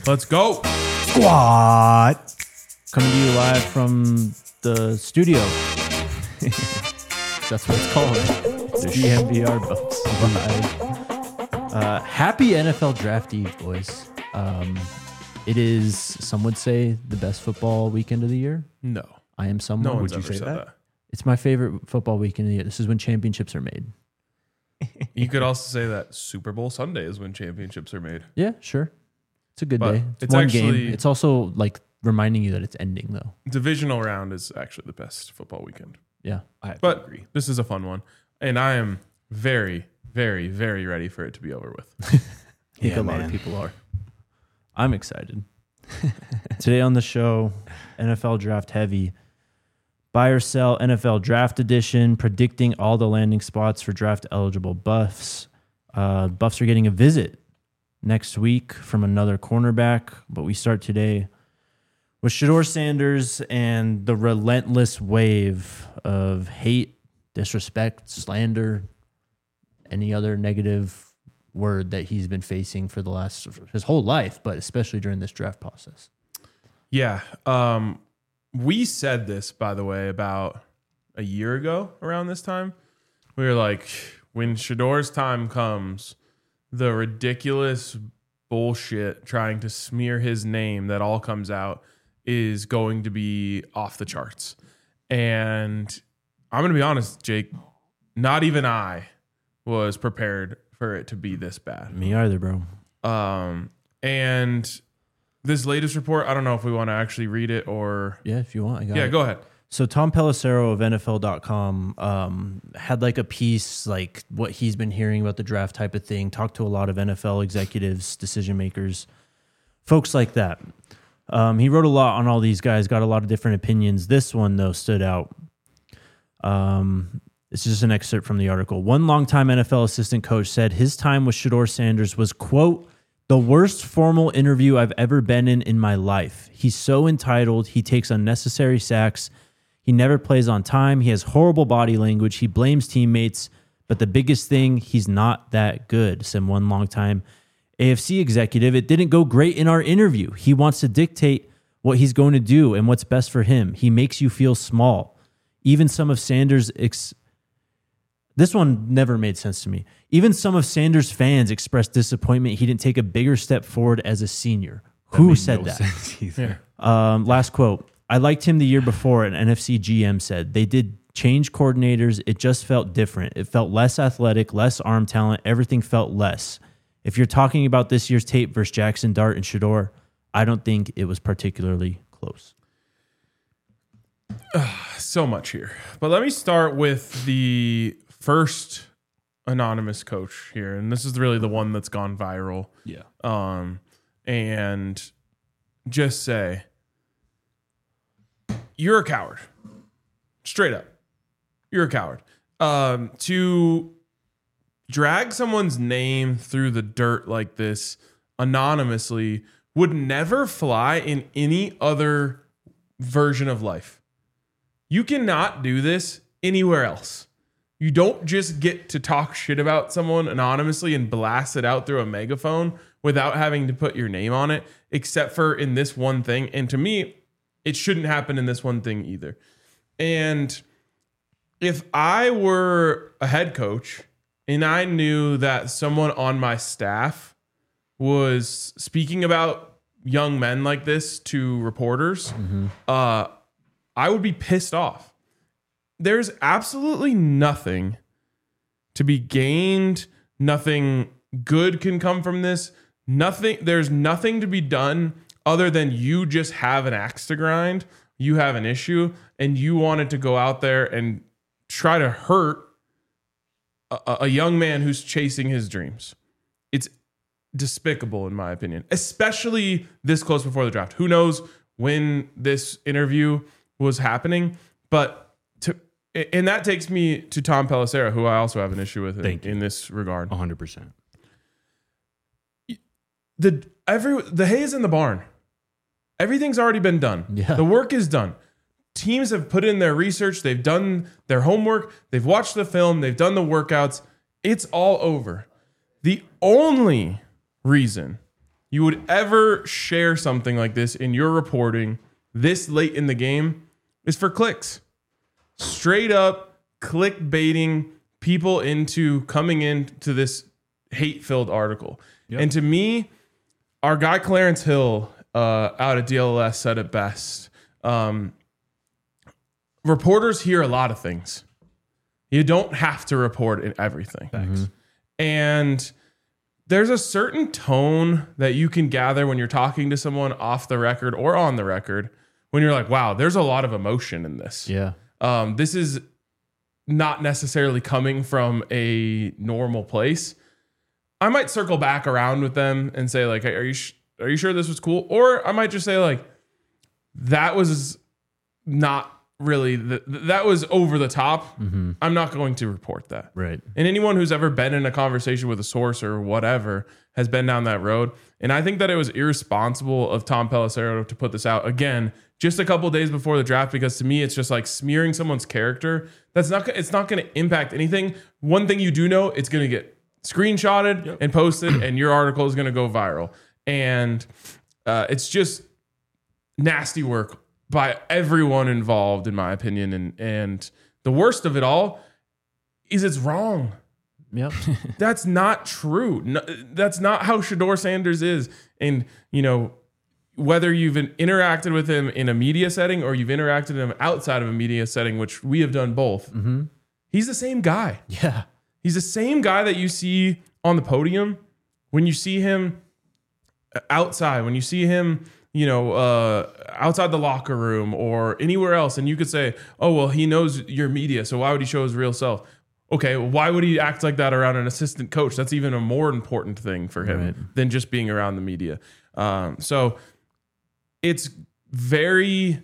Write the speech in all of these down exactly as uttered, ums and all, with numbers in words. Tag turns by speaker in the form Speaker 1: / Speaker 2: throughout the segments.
Speaker 1: Let's go.
Speaker 2: Squad. Coming to you live from the studio. That's what it's called. The D M V R Buffs Live. Uh, happy N F L Draft Eve, boys. Um, it is, some would say, the best football weekend of the year.
Speaker 1: No.
Speaker 2: I am someone.
Speaker 1: No one's
Speaker 2: would you
Speaker 1: ever
Speaker 2: say
Speaker 1: said
Speaker 2: that?
Speaker 1: that.
Speaker 2: It's my favorite football weekend of the year. This is when championships are made.
Speaker 1: You could also say that Super Bowl Sunday is when championships are made.
Speaker 2: Yeah, sure. It's a good
Speaker 1: But
Speaker 2: day. It's,
Speaker 1: it's
Speaker 2: one
Speaker 1: actually-
Speaker 2: game. It's also like reminding you that it's ending, though.
Speaker 1: Divisional round is actually the best football weekend.
Speaker 2: Yeah.
Speaker 3: I have
Speaker 1: But
Speaker 3: to agree.
Speaker 1: this is a fun one. And I am very, very, very ready for it to be over with.
Speaker 2: I think
Speaker 3: Yeah,
Speaker 2: a lot
Speaker 3: man.
Speaker 2: of people are. I'm excited. Today on the show, N F L Draft Heavy. Buy or sell N F L Draft Edition, predicting all the landing spots for draft eligible buffs. Uh, buffs are getting a visit next week from another cornerback, but we start today with Shedeur Sanders and the relentless wave of hate, disrespect, slander, any other negative word that he's been facing for the last his whole life, but especially during this draft process.
Speaker 1: Yeah. Um, we said this, by the way, about a year ago around this time. We were like, when Shedeur's time comes, the ridiculous bullshit trying to smear his name that all comes out is going to be off the charts. And I'm going to be honest, Jake, not even I was prepared for it to be this bad.
Speaker 2: Me either, bro.
Speaker 1: Um, and this latest report, I don't know if we want to actually read it or...
Speaker 2: Yeah, if you want, I got
Speaker 1: Yeah,
Speaker 2: it.
Speaker 1: go ahead.
Speaker 2: So Tom Pelissero of N F L dot com um, had like a piece, like what he's been hearing about the draft type of thing, talked to a lot of N F L executives, decision makers, folks like that. Um, he wrote a lot on all these guys, got a lot of different opinions. This one, though, stood out. Um, this is just an excerpt from the article. One longtime N F L assistant coach said his time with Shedeur Sanders was, quote, the worst formal interview I've ever been in in my life. He's so entitled. He takes unnecessary sacks. He never plays on time. He has horrible body language. He blames teammates. But the biggest thing, he's not that good, said one longtime A F C executive. It didn't go great in our interview. He wants to dictate what he's going to do and what's best for him. He makes you feel small. Even some of Sanders' ex- This one never made sense to me. Even some of Sanders' fans expressed disappointment he didn't take a bigger step forward as a senior.
Speaker 3: That
Speaker 2: Who
Speaker 3: made
Speaker 2: said
Speaker 3: no
Speaker 2: that?
Speaker 3: sense either.
Speaker 2: Um, last quote. I liked him the year before, an N F C G M said. They did change coordinators. It just felt different. It felt less athletic, less arm talent. Everything felt less. If you're talking about this year's tape versus Jackson Dart and Shedeur, I don't think it was particularly close.
Speaker 1: So much here. But let me start with the first anonymous coach here. And this is really the one that's gone viral.
Speaker 3: Yeah.
Speaker 1: Um, and just say, you're a coward. Straight up. You're a coward. Um, to drag someone's name through the dirt like this anonymously would never fly in any other version of life. You cannot do this anywhere else. You don't just get to talk shit about someone anonymously and blast it out through a megaphone without having to put your name on it, except for in this one thing. And to me, it shouldn't happen in this one thing either. And if I were a head coach and I knew that someone on my staff was speaking about young men like this to reporters, mm-hmm. uh, I would be pissed off. There's absolutely nothing to be gained. Nothing good can come from this. Nothing. There's nothing to be done other than you just have an axe to grind. You have an issue and you wanted to go out there and try to hurt a, a young man who's chasing his dreams. It's despicable, in my opinion, especially this close before the draft. Who knows when this interview was happening, but to, and that takes me to Tom Pelissero, who I also have an issue with in, in this regard.
Speaker 3: one hundred percent.
Speaker 1: The every the hay is in the barn. Everything's already been done.
Speaker 2: Yeah.
Speaker 1: The work is done. Teams have put in their research. They've done their homework. They've watched the film. They've done the workouts. It's all over. The only reason you would ever share something like this in your reporting this late in the game is for clicks. Straight up clickbaiting people into coming into this hate-filled article. Yep. And to me, our guy Clarence Hill uh, out at D L S said it best. Um, reporters hear a lot of things. You don't have to report in everything. Mm-hmm. And there's a certain tone that you can gather when you're talking to someone off the record or on the record when you're like, wow, there's a lot of emotion in this.
Speaker 2: Yeah.
Speaker 1: Um, this is not necessarily coming from a normal place. I might circle back around with them and say like, hey, are you sh- are you sure this was cool? Or I might just say like, that was not really, the, that was over the top. Mm-hmm. I'm not going to report that.
Speaker 2: Right.
Speaker 1: And anyone who's ever been in a conversation with a source or whatever has been down that road. And I think that it was irresponsible of Tom Pelissero to put this out again, just a couple of days before the draft, because to me, it's just like smearing someone's character. That's not, it's not going to impact anything. One thing you do know, it's going to get screenshotted yep. and posted and your article is going to go viral. And uh, it's just nasty work by everyone involved, in my opinion. And, and the worst of it all is it's wrong.
Speaker 2: Yep.
Speaker 1: That's not true. No, that's not how Shedeur Sanders is. And, you know, whether you've interacted with him in a media setting or you've interacted with him outside of a media setting, which we have done both, mm-hmm. he's the same guy.
Speaker 2: Yeah.
Speaker 1: He's the same guy that you see on the podium when you see him outside, when you see him, you know, uh, outside the locker room or anywhere else. And you could say, oh, well, he knows your media, so why would he show his real self? Okay, well, why would he act like that around an assistant coach? That's even a more important thing for him right. than just being around the media. Um, so it's very,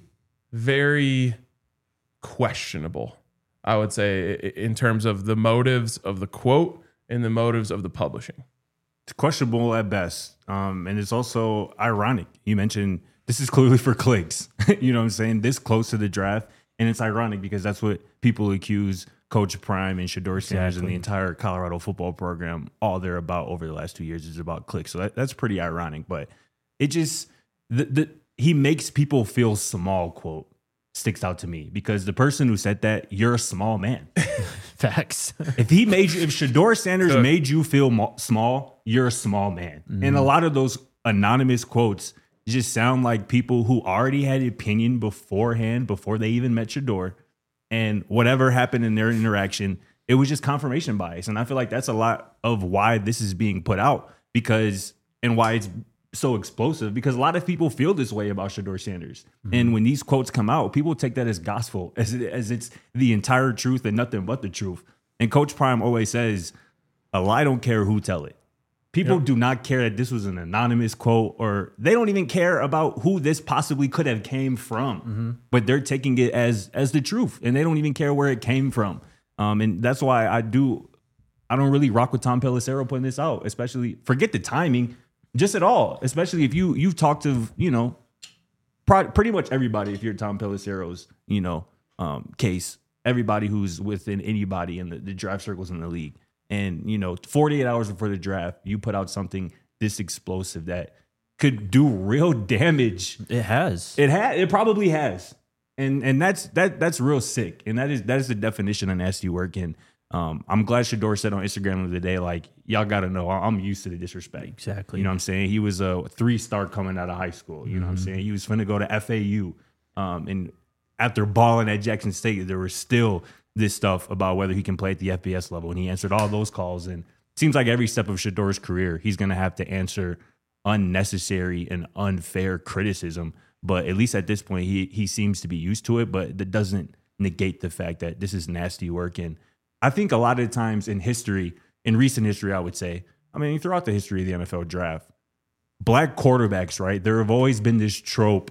Speaker 1: very questionable, I would say, in terms of the motives of the quote and the motives of the publishing.
Speaker 3: It's questionable at best. Um, and it's also ironic. You mentioned this is clearly for clicks. You know what I'm saying? This close to the draft. And it's ironic because that's what people accuse Coach Prime and Shedeur Sanders exactly. and the entire Colorado football program, all they're about over the last two years is about clicks. So that, that's pretty ironic. But it just, the, the he makes people feel small, quote, sticks out to me. Because the person who said that, you're a small man.
Speaker 2: Facts.
Speaker 3: If he made you, if Shedeur Sanders Good. made you feel mo- small, you're a small man. Mm-hmm. And a lot of those anonymous quotes just sound like people who already had an opinion beforehand, before they even met Shedeur. And whatever happened in their interaction, it was just confirmation bias. And I feel like that's a lot of why this is being put out, because, and why it's so explosive, because a lot of people feel this way about Shedeur Sanders. Mm-hmm. And when these quotes come out, people take that as gospel, as, it, as it's the entire truth and nothing but the truth. And Coach Prime always says, a lie don't care who tell it. People yep. do not care that this was an anonymous quote, or they don't even care about who this possibly could have came from, mm-hmm. but they're taking it as as the truth, and they don't even care where it came from. Um, and that's why I do, I don't really rock with Tom Pelissero putting this out, especially, forget the timing, just at all, especially if you, you've talked to, you know, pro- pretty much everybody, if you're Tom Pelissero's, you know, um, case, everybody who's within anybody in the, the draft circles in the league. And, you know, forty-eight hours before the draft, you put out something this explosive that could do real damage.
Speaker 2: It has.
Speaker 3: It has. It probably has. And and that's that that's real sick. And that is that is the definition of nasty work. And um, I'm glad Shedeur said on Instagram the other day, like, y'all got to know, I'm used to the disrespect.
Speaker 2: Exactly.
Speaker 3: You know what I'm saying? He was a three-star coming out of high school. You mm-hmm. know what I'm saying? He was finna go to F A U. Um, and after balling at Jackson State, there was still this stuff about whether he can play at the F B S level. And he answered all those calls. And it seems like every step of Shedeur's career, he's going to have to answer unnecessary and unfair criticism. But at least at this point, he he seems to be used to it. But that doesn't negate the fact that this is nasty work. And I think a lot of the times in history, in recent history, I would say, I mean, throughout the history of the N F L draft, black quarterbacks, right? There have always been this trope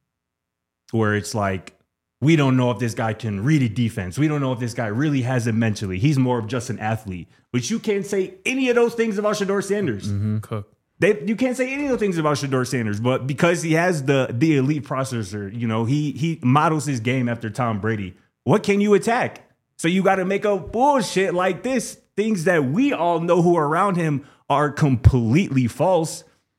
Speaker 3: where it's like, we don't know if this guy can read a defense. We don't know if this guy really has it mentally. He's more of just an athlete. But you can't say any of those things about Shedeur Sanders.
Speaker 1: Mm-hmm. Cook.
Speaker 3: They, you can't say any of those things about Shedeur Sanders. But because he has the the elite processor, you know, he he models his game after Tom Brady. What can you attack? So you got to make up bullshit like this. Things that we all know who are around him are completely false.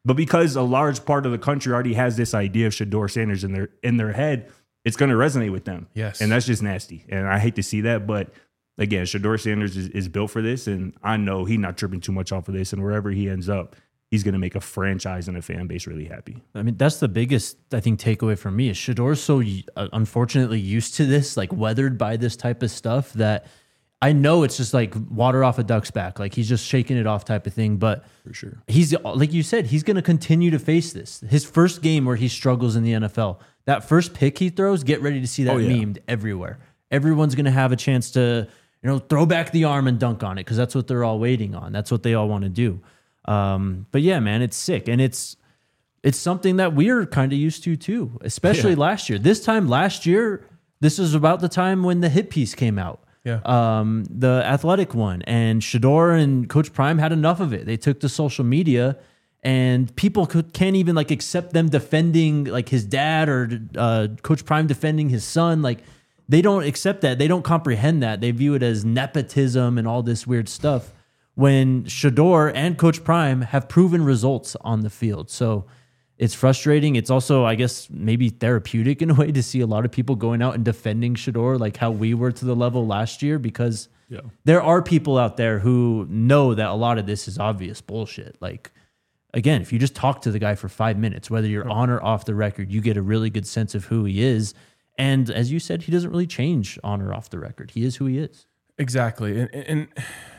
Speaker 3: But because a large part of the country already has this idea of Shedeur Sanders in their in their head, it's going to resonate with them.
Speaker 1: Yes.
Speaker 3: And that's just nasty. And I hate to see that. But again, Shedeur Sanders is, is built for this. And I know he's not tripping too much off of this. And wherever he ends up, he's going to make a franchise and a fan base really happy.
Speaker 2: I mean, that's the biggest, I think, takeaway from me is Shedeur's so uh, unfortunately used to this, like weathered by this type of stuff that I know it's just like water off a duck's back. Like he's just shaking it off type of thing. But
Speaker 3: For sure.
Speaker 2: he's, like you said, he's going to continue to face this. His first game where he struggles in the N F L, that first pick he throws, get ready to see that
Speaker 3: Oh, yeah.
Speaker 2: memed everywhere. Everyone's going to have a chance to, you know, throw back the arm and dunk on it because that's what they're all waiting on. That's what they all want to do. Um, but yeah, man, it's sick. And it's, it's something that we're kind of used to too, especially
Speaker 3: Yeah.
Speaker 2: last year. This time last year, this was about the time when the hit piece came out.
Speaker 1: Yeah.
Speaker 2: Um, the Athletic one, and Shedeur and Coach Prime had enough of it. They took to social media, and people could, can't even like accept them defending like his dad or uh, Coach Prime defending his son. Like they don't accept that. They don't comprehend that. They view it as nepotism and all this weird stuff. When Shedeur and Coach Prime have proven results on the field. So it's frustrating. It's also, I guess, maybe therapeutic in a way to see a lot of people going out and defending Shedeur like how we were to the level last year, because
Speaker 3: Yeah.
Speaker 2: there are people out there who know that a lot of this is obvious bullshit. Like, again, if you just talk to the guy for five minutes, whether you're on or off the record, you get a really good sense of who he is. And as you said, he doesn't really change on or off the record. He is who he is.
Speaker 1: Exactly. And, and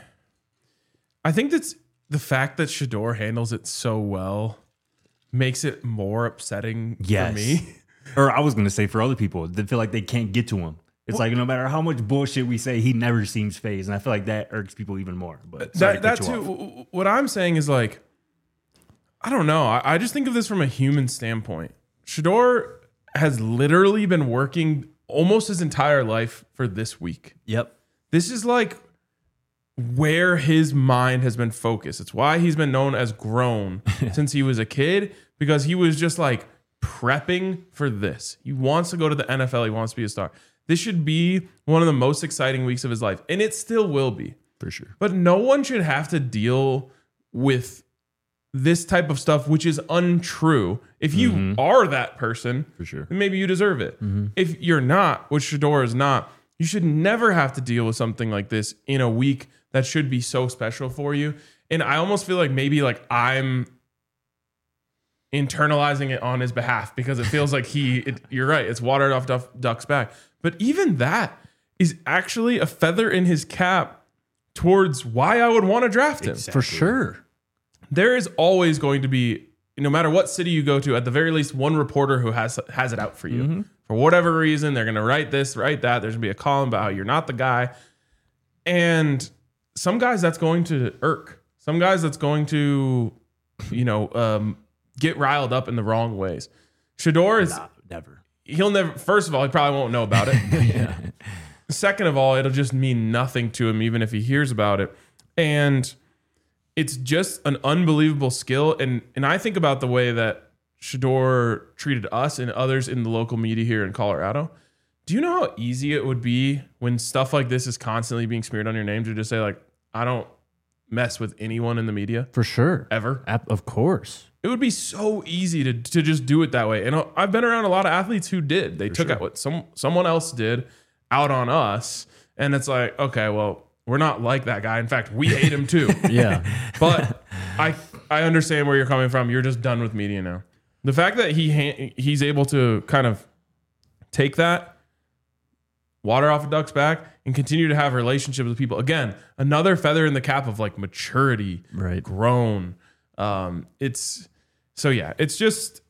Speaker 1: I think that's the fact that Shedeur handles it so well makes it more upsetting
Speaker 3: Yes.
Speaker 1: for me.
Speaker 3: Or I was going to say for other people that feel like they can't get to him. It's like no matter how much bullshit we say, he never seems phased. And I feel like that irks people even more. But sorry
Speaker 1: That,
Speaker 3: to
Speaker 1: that
Speaker 3: cut you
Speaker 1: too.
Speaker 3: off.
Speaker 1: w- What I'm saying is like, I don't know. I, I just think of this from a human standpoint. Shedeur has literally been working almost his entire life for this week.
Speaker 2: Yep.
Speaker 1: This is like where his mind has been focused. It's why he's been known as grown since he was a kid, because he was just like prepping for this. He wants to go to the N F L. He wants to be a star. This should be one of the most exciting weeks of his life, and it still will be.
Speaker 3: For sure.
Speaker 1: But no one should have to deal with this type of stuff, which is untrue. If you
Speaker 3: Mm-hmm.
Speaker 1: are that person,
Speaker 3: For sure.
Speaker 1: then maybe you deserve it. If you're not, which Shedeur is not, you should never have to deal with something like this in a week that should be so special for you. And I almost feel like maybe like I'm internalizing it on his behalf because it feels like he, it, you're right, it's watered off Duff, Duck's back. But even that is actually a feather in his cap towards why I would want to draft him.
Speaker 2: For sure.
Speaker 1: There is always going to be, no matter what city you go to, at the very least one reporter who has has it out for you.
Speaker 3: Mm-hmm.
Speaker 1: For whatever reason, they're going to write this, write that. There's going to be a column about how you're not the guy. And some guys that's going to irk. Some guys that's going to, you know, um, get riled up in the wrong ways. Shedeur is,
Speaker 3: Nah, never.
Speaker 1: he'll never, first of all, he probably won't know about it.
Speaker 3: Yeah.
Speaker 1: Second of all, it'll just mean nothing to him, even if he hears about it. And it's just an unbelievable skill. And and I think about the way that Shedeur treated us and others in the local media here in Colorado. Do you know how easy it would be when stuff like this is constantly being smeared on your name to just say, like, I don't mess with anyone in the media
Speaker 2: For sure.
Speaker 1: ever?
Speaker 2: Ap- Of course.
Speaker 1: It would be so easy to, to just do it that way. And I've been around a lot of athletes who did. They took
Speaker 3: sure.
Speaker 1: out what some someone else did out on us. And it's like, okay, well, we're not like that guy. In fact, we hate him too.
Speaker 2: Yeah.
Speaker 1: But I I understand where you're coming from. You're just done with media now. The fact that he ha- he's able to kind of take that, water off a duck's back, and continue to have relationships with people. Again, another feather in the cap of like maturity,
Speaker 2: Right.
Speaker 1: grown. Um, it's so yeah, it's just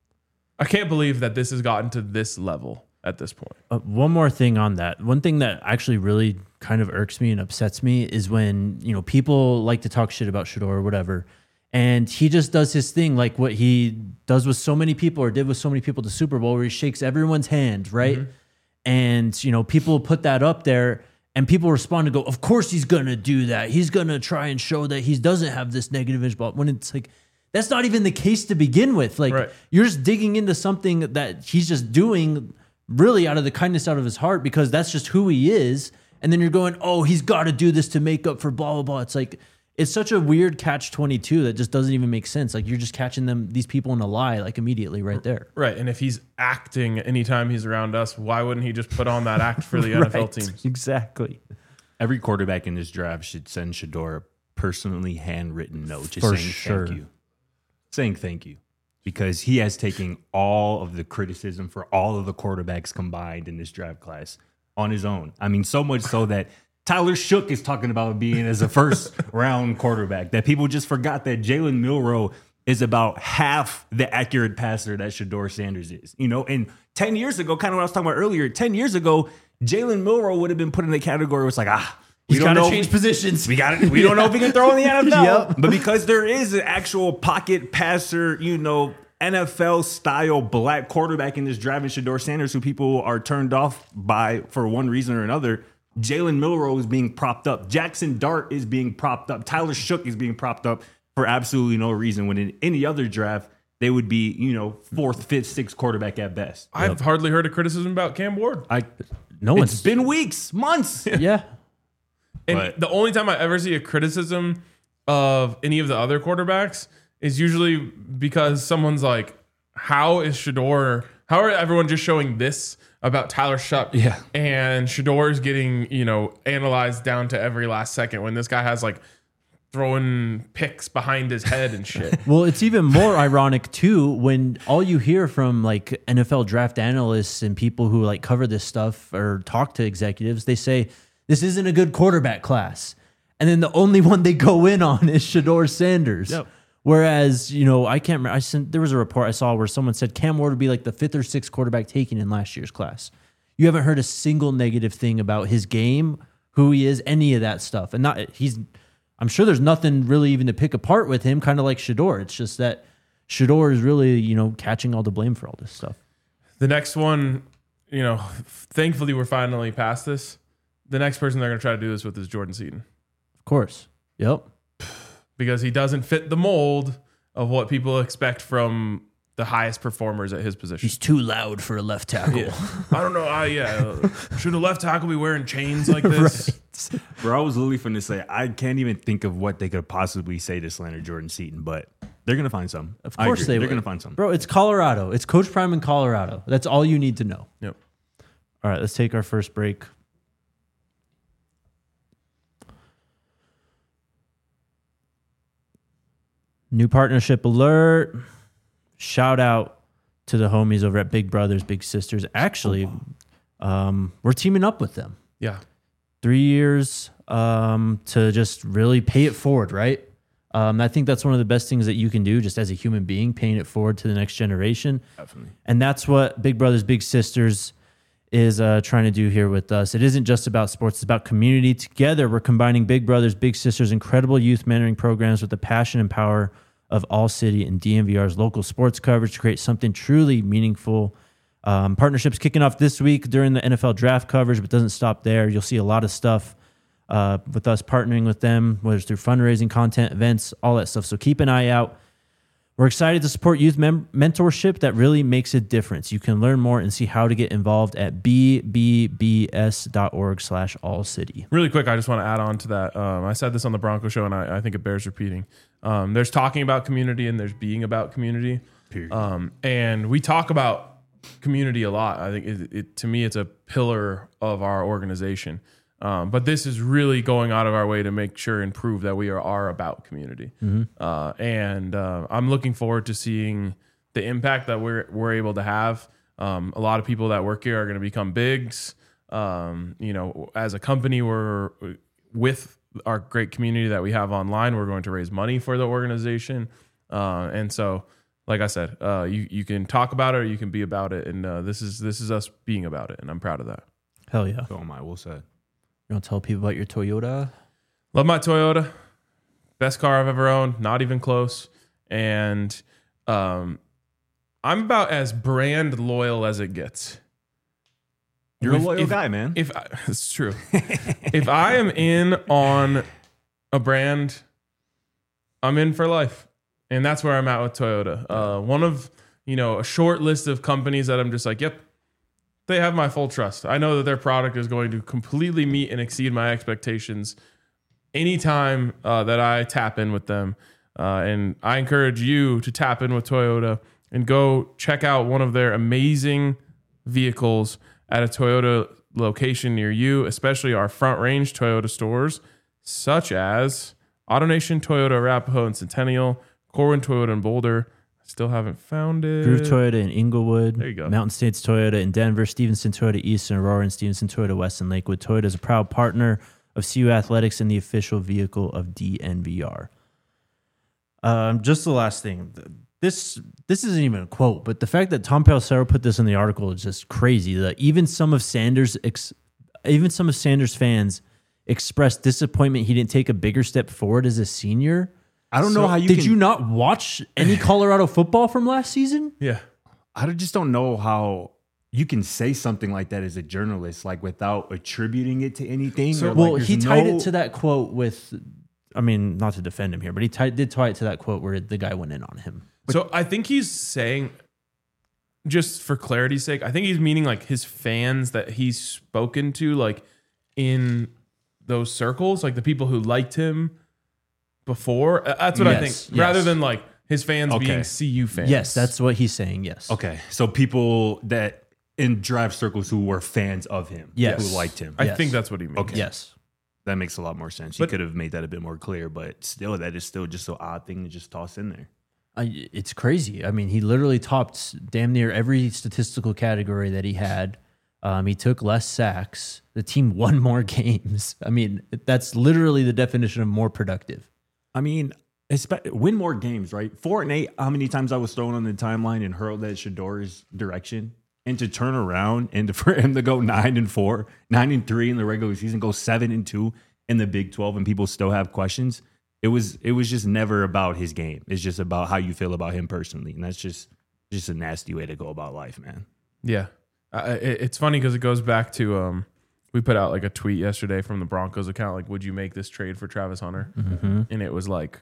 Speaker 1: I can't believe that this has gotten to this level at this point.
Speaker 2: Uh, one more thing on that. One thing that actually really kind of irks me and upsets me is when, you know, people like to talk shit about Shedeur or whatever, and he just does his thing like what he does with so many people or did with so many people at the Super Bowl, where he shakes everyone's hand, right?
Speaker 1: Mm-hmm.
Speaker 2: And, you know, people put that up there and people respond and go, of course he's going to do that. He's going to try and show that he doesn't have this negative image. But when it's like, that's not even the case to begin with. Like,
Speaker 1: Right.
Speaker 2: you're just digging into something that he's just doing really out of the kindness out of his heart, because that's just who he is. And then you're going, oh, he's got to do this to make up for blah, blah, blah. It's like, it's such a weird catch twenty-two that just doesn't even make sense. Like you're just catching them, these people in a lie, like immediately right there.
Speaker 1: Right. And if he's acting anytime he's around us, why wouldn't he just put on that act for the N F L
Speaker 2: Right.
Speaker 1: teams?
Speaker 2: Exactly.
Speaker 3: Every quarterback in this draft should send Shador a personally handwritten note just
Speaker 2: For
Speaker 3: saying
Speaker 2: sure.
Speaker 3: thank you. Saying thank you. Because he has taken all of the criticism for all of the quarterbacks combined in this draft class on his own. I mean, so much so that Tyler Shook is talking about being as a first round quarterback, that people just forgot that Jalen Milroe is about half the accurate passer that Shador Sanders is. You know, and ten years ago, kind of what I was talking about earlier, ten years ago, Jalen Milroe would have been put in the category where it's like, ah, we
Speaker 2: He's
Speaker 3: don't
Speaker 2: got to
Speaker 3: know.
Speaker 2: change positions.
Speaker 3: We got it. We don't know if he can throw in the N F L.
Speaker 2: Yep.
Speaker 3: But because there is an actual pocket passer, you know, N F L style black quarterback in this draft, in Shador Sanders, who people are turned off by for one reason or another, Jalen Milroe is being propped up. Jackson Dart is being propped up. Tyler Shook is being propped up for absolutely no reason. When in any other draft, they would be, you know, fourth, fifth, sixth quarterback at best.
Speaker 1: I've hardly heard a criticism about Cam Ward.
Speaker 3: I.
Speaker 2: No
Speaker 3: It's
Speaker 2: one's
Speaker 3: been weeks, months.
Speaker 2: yeah.
Speaker 1: And
Speaker 3: But-
Speaker 1: the only time I ever see a criticism of any of the other quarterbacks is usually because someone's like, how is Shador, how are everyone just showing this about Tyler Shuck?
Speaker 3: Yeah.
Speaker 1: And Shador's getting, you know, analyzed down to every last second when this guy has like throwing picks behind his head and shit.
Speaker 2: Well, it's even more ironic too when all you hear from like N F L draft analysts and people who like cover this stuff or talk to executives, they say this isn't a good quarterback class. And then the only one they go in on is Shador Sanders.
Speaker 3: Yep.
Speaker 2: Whereas, you know, I can't remember. I sent, there was a report I saw where someone said Cam Ward would be like the fifth or sixth quarterback taken in last year's class. You haven't heard a single negative thing about his game, who he is, any of that stuff. And not he's I'm sure there's nothing really even to pick apart with him, kind of like Shador. It's just that Shador is really, you know, catching all the blame for all this stuff.
Speaker 1: The next one, you know, thankfully we're finally past this. The next person they're going to try to do this with is Jordan Seaton,
Speaker 2: Of course. Yep.
Speaker 1: because he doesn't fit the mold of what people expect from the highest performers at his position.
Speaker 2: He's too loud for a left tackle.
Speaker 1: Yeah. I don't know. I, yeah. Should a left tackle be wearing chains like this?
Speaker 2: Right.
Speaker 3: Bro, I was literally finna say, I can't even think of what they could possibly say to slander Jordan Seaton, but they're going to find some.
Speaker 2: Of
Speaker 3: I
Speaker 2: course
Speaker 3: agree.
Speaker 2: they
Speaker 3: They're
Speaker 2: will.
Speaker 3: going to find some.
Speaker 2: Bro, it's Colorado. It's Coach Prime in Colorado. That's all you need to know.
Speaker 1: Yep.
Speaker 2: All right, let's take our first break. New partnership alert. Shout out to the homies over at Big Brothers, Big Sisters. Actually, um, we're teaming up with them.
Speaker 1: Yeah.
Speaker 2: Three years um, to just really pay it forward, right? Um, I think that's one of the best things that you can do just as a human being, paying it forward to the next generation.
Speaker 3: Definitely.
Speaker 2: And that's what Big Brothers Big Sisters is uh, trying to do here with us. It isn't just about sports, it's about community. Together, we're combining Big Brothers Big Sisters' incredible youth mentoring programs with the passion and power of All City and D M V R's local sports coverage to create something truly meaningful. Um, partnerships kicking off this week during the N F L draft coverage, but doesn't stop there. You'll see a lot of stuff uh, with us partnering with them, whether it's through fundraising, content, events, all that stuff. So keep an eye out. We're excited to support youth mem- mentorship that really makes a difference. You can learn more and see how to get involved at b b b s dot org slash all city.
Speaker 1: Really quick, I just want to add on to that. Um, I said this on the Bronco show, and I, I think it bears repeating. Um, there's talking about community, and there's being about community.
Speaker 3: Period.
Speaker 1: Um, and we talk about community a lot. I think it, it, to me, it's a pillar of our organization. Um, but this is really going out of our way to make sure and prove that we are, are about community. Uh, and uh, I'm looking forward to seeing the impact that we're we're able to have. Um, a lot of people that work here are going to become bigs. Um, you know, as a company, we're with our great community that we have online. We're going to raise money for the organization, uh, and so, like I said, uh, you you can talk about it or you can be about it. And uh, this is this is us being about it, and I'm proud of that.
Speaker 2: Hell yeah.
Speaker 3: Oh my, well said.
Speaker 2: You want to tell people about your Toyota?
Speaker 1: Love my Toyota. Best car I've ever owned. Not even close. And um, I'm about as brand loyal as it gets.
Speaker 3: You're
Speaker 1: If-
Speaker 3: a loyal
Speaker 1: if-
Speaker 3: guy, man.
Speaker 1: If I, it's true. If I am in on a brand, I'm in for life. And that's where I'm at with Toyota. Uh, one of, you know, a short list of companies that I'm just like, yep, they have my full trust. I know that their product is going to completely meet and exceed my expectations anytime uh, that I tap in with them. Uh, and I encourage you to tap in with Toyota and go check out one of their amazing vehicles at a Toyota location near you, especially our Front Range Toyota stores, such as AutoNation Toyota, Arapahoe and Centennial, Corwin Toyota in Boulder. Still haven't found it.
Speaker 2: Groove Toyota in Inglewood.
Speaker 1: There you go.
Speaker 2: Mountain States Toyota in Denver. Stevenson Toyota East and Aurora, and Stevenson Toyota West in Lakewood. Toyota is a proud partner of C U Athletics and the official vehicle of D N V R. Um, just the last thing. This this isn't even a quote, but the fact that Tom Pelissero put this in the article is just crazy. That even some of Sanders, ex, even some of Sanders fans expressed disappointment he didn't take a bigger step forward as a senior.
Speaker 3: I don't
Speaker 1: So
Speaker 3: know how you
Speaker 2: Did
Speaker 3: can,
Speaker 2: you not watch any Colorado football from last season?
Speaker 1: Yeah.
Speaker 3: I just don't know how you can say something like that as a journalist, like without attributing it to anything.
Speaker 1: So-
Speaker 3: or
Speaker 2: Well,
Speaker 3: like
Speaker 2: he
Speaker 3: there's
Speaker 2: tied
Speaker 3: no-
Speaker 2: it to that quote with, I mean, not to defend him here, but he tied, did tie it to that quote where the guy went in on him.
Speaker 1: So I think he's saying, just for clarity's sake, I think he's meaning like his fans that he's spoken to, like in those circles, like the people who liked him before. Uh, That's what I
Speaker 2: Yes,
Speaker 1: think, rather
Speaker 2: yes.
Speaker 1: than like his fans
Speaker 3: Okay.
Speaker 1: being C U fans.
Speaker 2: Yes, that's what he's saying. Yes.
Speaker 3: Okay, so people that in drive circles who were fans of him,
Speaker 2: Yes.
Speaker 3: who liked him.
Speaker 1: I
Speaker 2: Yes.
Speaker 1: think that's what he means.
Speaker 3: Okay.
Speaker 2: Yes.
Speaker 3: That makes a lot more sense.
Speaker 1: But-
Speaker 3: you could have made that a bit more clear, but still, that is still just an odd thing to just toss in there.
Speaker 2: I, it's crazy. I mean, he literally topped damn near every statistical category that he had. Um, he took less sacks. The team won more games. I mean, that's literally the definition of more productive.
Speaker 3: I mean, espe- win more games, right? Four and eight. How many times I was thrown on the timeline and hurled at Shador's direction, and to turn around and to, for him to go nine and four, nine and three in the regular season, go seven and two in the Big twelve, and people still have questions. It was it was just never about his game. It's just about how you feel about him personally, and that's just just a nasty way to go about life, man.
Speaker 1: Yeah. Uh, it, it's funny because it goes back to, um, we put out like a tweet yesterday from the Broncos account, like, would you make this trade for Travis Hunter?
Speaker 2: Mm-hmm.
Speaker 1: And it was like,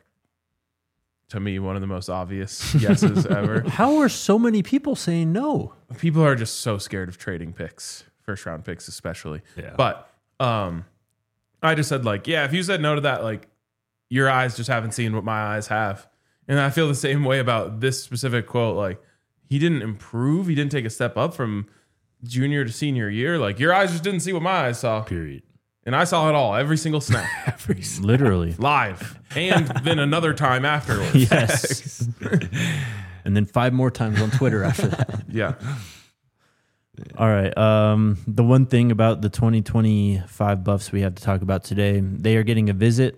Speaker 1: to me, one of the most obvious yeses ever.
Speaker 2: How are so many people saying no?
Speaker 1: People are just so scared of trading picks, first round picks especially.
Speaker 3: Yeah.
Speaker 1: But um, I just said like, yeah, if you said no to that, like your eyes just haven't seen what my eyes have. And I feel the same way about this specific quote. Like he didn't improve. He didn't take a step up from junior to senior year. Like your eyes just didn't see what my eyes saw.
Speaker 3: Period.
Speaker 1: And I saw it all, every single snap,
Speaker 3: Every
Speaker 2: Literally.
Speaker 1: live. And then another time afterwards.
Speaker 2: Yes. And then five more times on Twitter after that.
Speaker 1: Yeah.
Speaker 2: All right. Um, the one thing about the twenty twenty-five Buffs we have to talk about today, they are getting a visit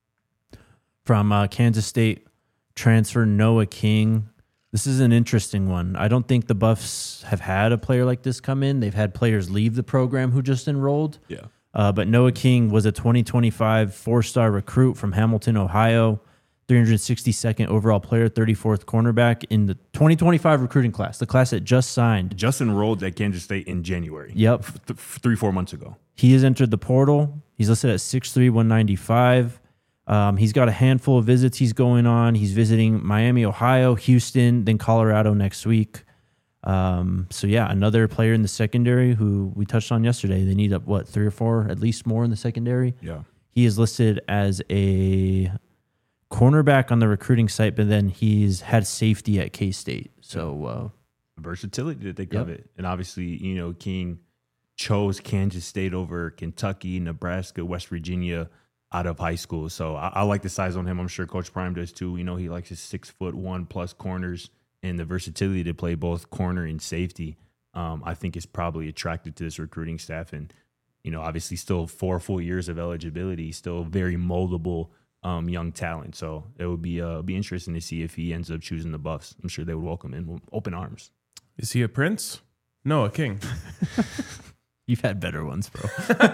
Speaker 2: from uh, Kansas State transfer Noah King. This is an interesting one. I don't think the Buffs have had a player like this come in. They've had players leave the program who just enrolled.
Speaker 3: Yeah.
Speaker 2: Uh, but Noah King was a twenty twenty-five four-star recruit from Hamilton, Ohio, three hundred sixty-second overall player, thirty-fourth cornerback in the twenty twenty-five recruiting class, the class that just signed.
Speaker 3: Just enrolled at Kansas State in January.
Speaker 2: Yep.
Speaker 3: Th- three, four months ago.
Speaker 2: He has entered the portal. He's listed at six three, one ninety-five. Um, he's got a handful of visits he's going on. He's visiting Miami, Ohio, Houston, then Colorado next week. Um, so, yeah, another player in the secondary who we touched on yesterday. They need, up what, three or four, at least more in the secondary.
Speaker 3: Yeah.
Speaker 2: He is listed as a cornerback on the recruiting site, but then he's had safety at K-State. So, uh,
Speaker 3: Versatility that they
Speaker 2: Yep.
Speaker 3: covet. And obviously, you know, King chose Kansas State over Kentucky, Nebraska, West Virginia out of high school. So I, I like the size on him. I'm sure Coach Prime does too. You know, he likes his six foot one plus corners and the versatility to play both corner and safety. Um, I think is probably attracted to this recruiting staff. And, you know, obviously still four full years of eligibility, still very moldable um, young talent. So it would be uh, be interesting to see if he ends up choosing the Buffs. I'm sure they would welcome him with open arms.
Speaker 1: Is he a prince? No, a king.
Speaker 2: you've had better ones, bro.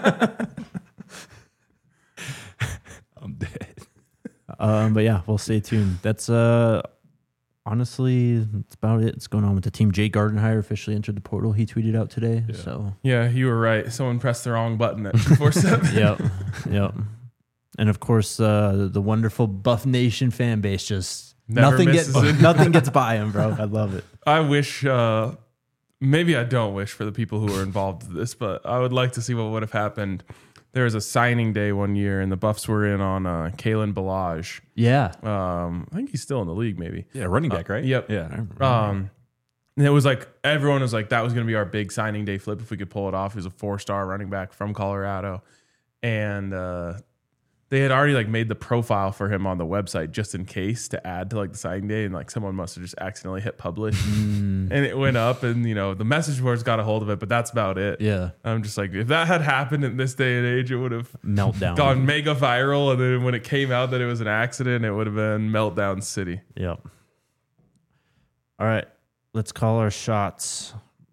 Speaker 3: I'm dead.
Speaker 2: Um, but yeah, we'll stay tuned. That's uh, honestly, that's about it. It's going on with the team. Jay Gardenhire officially entered the portal. He tweeted out today.
Speaker 1: Yeah.
Speaker 2: So
Speaker 1: Yeah, you were right. Someone pressed the wrong button at two forty-seven.
Speaker 2: yep, yep. And of course, uh, the wonderful Buff Nation fan base just
Speaker 1: Never
Speaker 2: nothing gets
Speaker 1: misses it.
Speaker 2: nothing gets by him, bro. I love it.
Speaker 1: I wish, uh, maybe I don't wish for the people who were involved in this, but I would like to see what would have happened. there was a signing day one year, and the Buffs were in on uh, Kalen Ballage.
Speaker 2: Yeah.
Speaker 1: Um, I think he's still in the league, maybe.
Speaker 3: Yeah, running back, right?
Speaker 1: Uh, yep.
Speaker 3: Yeah. I remember.
Speaker 1: Um, and it was like everyone was like, that was going to be our big signing day flip if we could pull it off. He was a four-star running back from Colorado, and uh, they had already like made the profile for him on the website just in case to add to like the signing day, and like someone must have just accidentally hit publish, and it went up, and you know the message boards got a hold of it, but that's about it.
Speaker 2: Yeah.
Speaker 1: I'm just like, if that had happened in this day and age, it would have
Speaker 2: Meltdown.
Speaker 1: gone mega viral, and then when it came out that it was an accident, it would have been meltdown city.
Speaker 2: Yep. All right. Let's call our shots.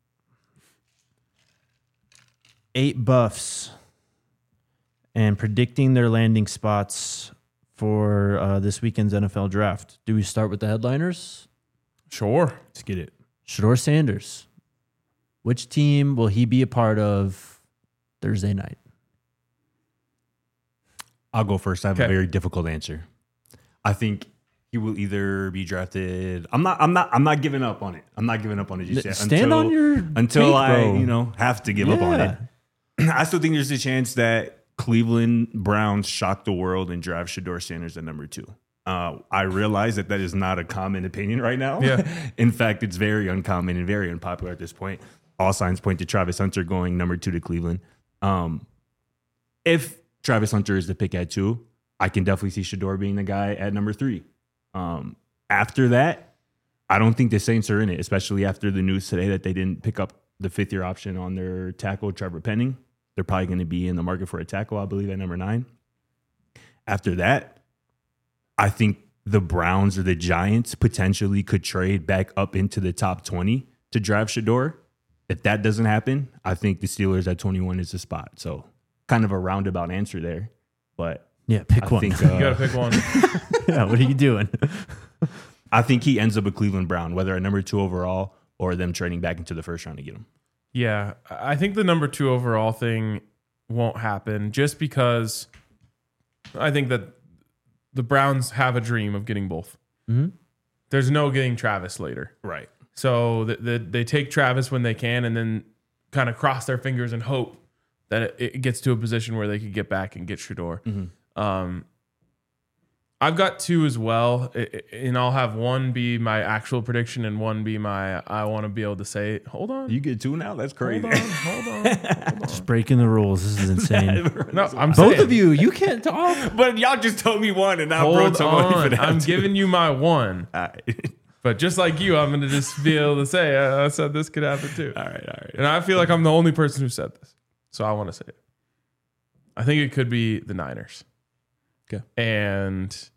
Speaker 2: Eight Buffs. And predicting their landing spots for uh, this weekend's N F L draft. Do we start with the headliners?
Speaker 1: Sure.
Speaker 3: Let's get it.
Speaker 2: Shedeur Sanders. Which team will he be a part of Thursday night?
Speaker 3: I'll go first. I have
Speaker 1: Okay.
Speaker 3: a very difficult answer. I think he will either be drafted. I'm not. I'm not. I'm not giving up on it. I'm not giving up on it just yet.
Speaker 2: Stand
Speaker 3: until,
Speaker 2: on your
Speaker 3: until
Speaker 2: take,
Speaker 3: I,
Speaker 2: bro.
Speaker 3: you know, have to give up on
Speaker 2: Yeah.
Speaker 3: it. I still think there's a chance that Cleveland Browns shock the world and draft Shedeur Sanders at number two. Uh, I realize that that is not a common opinion right now.
Speaker 1: Yeah.
Speaker 3: In fact, it's very uncommon and very unpopular at this point. All signs point to Travis Hunter going number two to Cleveland. Um, if Travis Hunter is the pick at two, I can definitely see Shedeur being the guy at number three. Um, after that, I don't think the Saints are in it, especially after the news today that they didn't pick up the fifth year option on their tackle, Trevor Penning. They're probably going to be in the market for a tackle, I believe, at number nine. After that, I think the Browns or the Giants potentially could trade back up into the top twenty to draft Shedeur. If that doesn't happen, I think the Steelers at twenty-one is the spot. So kind of a roundabout answer there. But
Speaker 2: Yeah, pick
Speaker 3: I
Speaker 2: one.
Speaker 3: think,
Speaker 1: You
Speaker 3: uh,
Speaker 1: got to pick one.
Speaker 2: Yeah, what are you doing?
Speaker 3: I think he ends up a Cleveland Brown, whether at number two overall or them trading back into the first round to get him.
Speaker 1: Yeah, I think the number two overall thing won't happen just because I think that the Browns have a dream of getting both.
Speaker 2: Mm-hmm.
Speaker 1: There's no getting Travis later.
Speaker 3: Right.
Speaker 1: So the, the, they take Travis when they can and then kind of cross their fingers and hope that it, it gets to a position where they could get back and get Shedeur.
Speaker 3: Mm-hmm.
Speaker 1: Um, I've got two as well, I- I- and I'll have one be my actual prediction and one be my I want to be able to say it. Hold on.
Speaker 3: You get two now? That's crazy.
Speaker 1: Hold on. Hold on. Hold on.
Speaker 2: Just breaking the rules. This is insane.
Speaker 1: No, I'm
Speaker 2: Both
Speaker 1: saying,
Speaker 2: of you, you can't talk.
Speaker 3: But y'all just told me one, and now
Speaker 1: Hold
Speaker 3: bro told me for
Speaker 1: on.
Speaker 3: that.
Speaker 1: I'm
Speaker 3: too.
Speaker 1: giving you my one.
Speaker 3: All right.
Speaker 1: But just like you, I'm going to just be able to say, I, I said this could happen too.
Speaker 3: all right. All right.
Speaker 1: And I feel like I'm the only person who said this. So I want to say it. I think it could be the Niners.
Speaker 3: Okay.
Speaker 1: And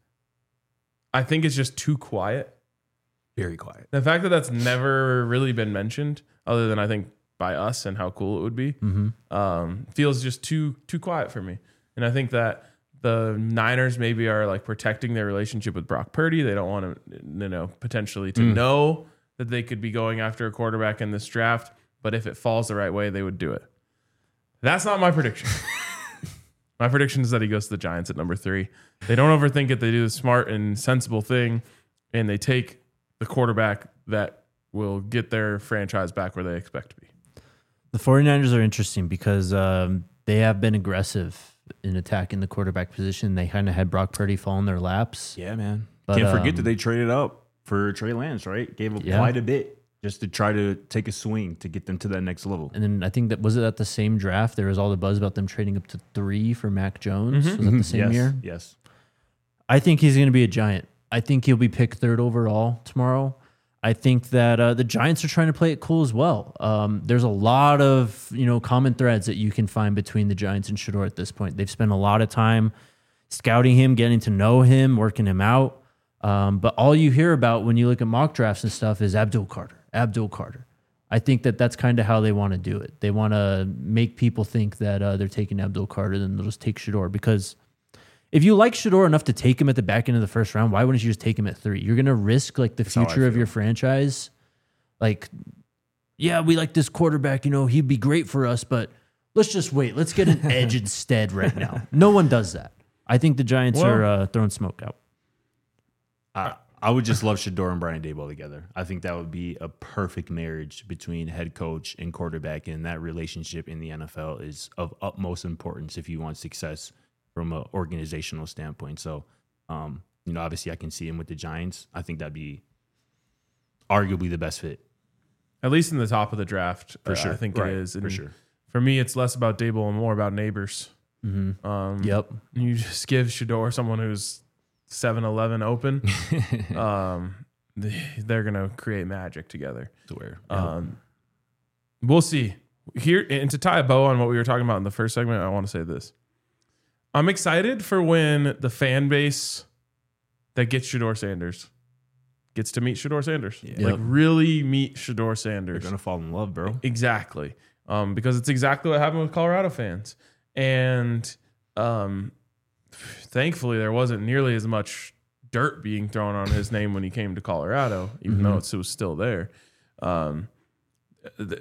Speaker 1: I think it's just too quiet.
Speaker 3: Very quiet.
Speaker 1: The fact that that's never really been mentioned, other than I think by us and how cool it would be,
Speaker 2: Mm-hmm.
Speaker 1: um, feels just too too quiet for me. And I think that the Niners maybe are like protecting their relationship with Brock Purdy. They don't want to, you know, potentially to
Speaker 3: Mm.
Speaker 1: know that they could be going after a quarterback in this draft. But if it falls the right way, they would do it. That's not my prediction. My prediction is that he goes to the Giants at number three. They don't overthink it. They do the smart and sensible thing, and they take the quarterback that will get their franchise back where they expect to be.
Speaker 2: The 49ers are interesting because um, they have been aggressive in attacking the quarterback position. They kind of had Brock Purdy fall in their laps.
Speaker 3: Yeah, man.
Speaker 2: But,
Speaker 3: Can't forget
Speaker 2: um,
Speaker 3: that they traded up for Trey Lance, right? Gave up
Speaker 2: Yeah.
Speaker 3: quite a bit just to try to take a swing to get them to that next level.
Speaker 2: And then I think that was it at the same draft. There was all the buzz about them trading up to three for Mac Jones. Was that the same
Speaker 3: yes,
Speaker 2: year?
Speaker 3: Yes.
Speaker 2: I think he's going to be a Giant. I think he'll be picked third overall tomorrow. I think that uh, the Giants are trying to play it cool as well. Um, there's a lot of you know common threads that you can find between the Giants and Shedeur at this point. They've spent a lot of time scouting him, getting to know him, working him out. Um, but all you hear about when you look at mock drafts and stuff is Abdul Carter, Abdul Carter. I think that that's kind of how they want to do it. They want to make people think that uh, they're taking Abdul Carter, then they'll just take Shedeur. Because if you like Shedeur enough to take him at the back end of the first round, why wouldn't you just take him at three? You're going to risk like the
Speaker 3: how I
Speaker 2: future of
Speaker 3: feel.
Speaker 2: your franchise. Like, yeah, we like this quarterback. You know, he'd be great for us, but let's just wait. Let's get an edge instead right now. No one does that. I think the Giants
Speaker 1: Well-
Speaker 2: are uh, throwing smoke out.
Speaker 3: I, I would just love Shedeur and Brian Daboll together. I think that would be a perfect marriage between head coach and quarterback, and that relationship in the N F L is of utmost importance if you want success from an organizational standpoint. So, um, you know, obviously I can see him with the Giants. I think that'd be arguably the best fit.
Speaker 1: At least in the top of the draft,
Speaker 3: For
Speaker 1: uh,
Speaker 3: sure.
Speaker 1: I think
Speaker 3: Right.
Speaker 1: it is. And
Speaker 3: For sure.
Speaker 1: For me, it's less about Daboll and more about neighbors.
Speaker 2: Mm-hmm.
Speaker 1: Um,
Speaker 2: Yep.
Speaker 1: You just give Shedeur someone who's seven eleven open. um, they're going to create magic together.
Speaker 3: To where?
Speaker 1: Um, we'll see. Here, and to tie a bow on what we were talking about in the first segment, I want to say this. I'm excited for when the fan base that gets Shedeur Sanders gets to meet Shedeur Sanders.
Speaker 3: Yeah.
Speaker 1: Like
Speaker 2: Yep.
Speaker 1: really meet Shedeur
Speaker 3: They're
Speaker 1: Sanders.
Speaker 3: going to fall in love, bro.
Speaker 1: Exactly. Um, because it's exactly what happened with Colorado fans. And um, thankfully, there wasn't nearly as much dirt being thrown on his name when he came to Colorado, even
Speaker 2: Mhm.
Speaker 1: though it's, it was still there. Um, th-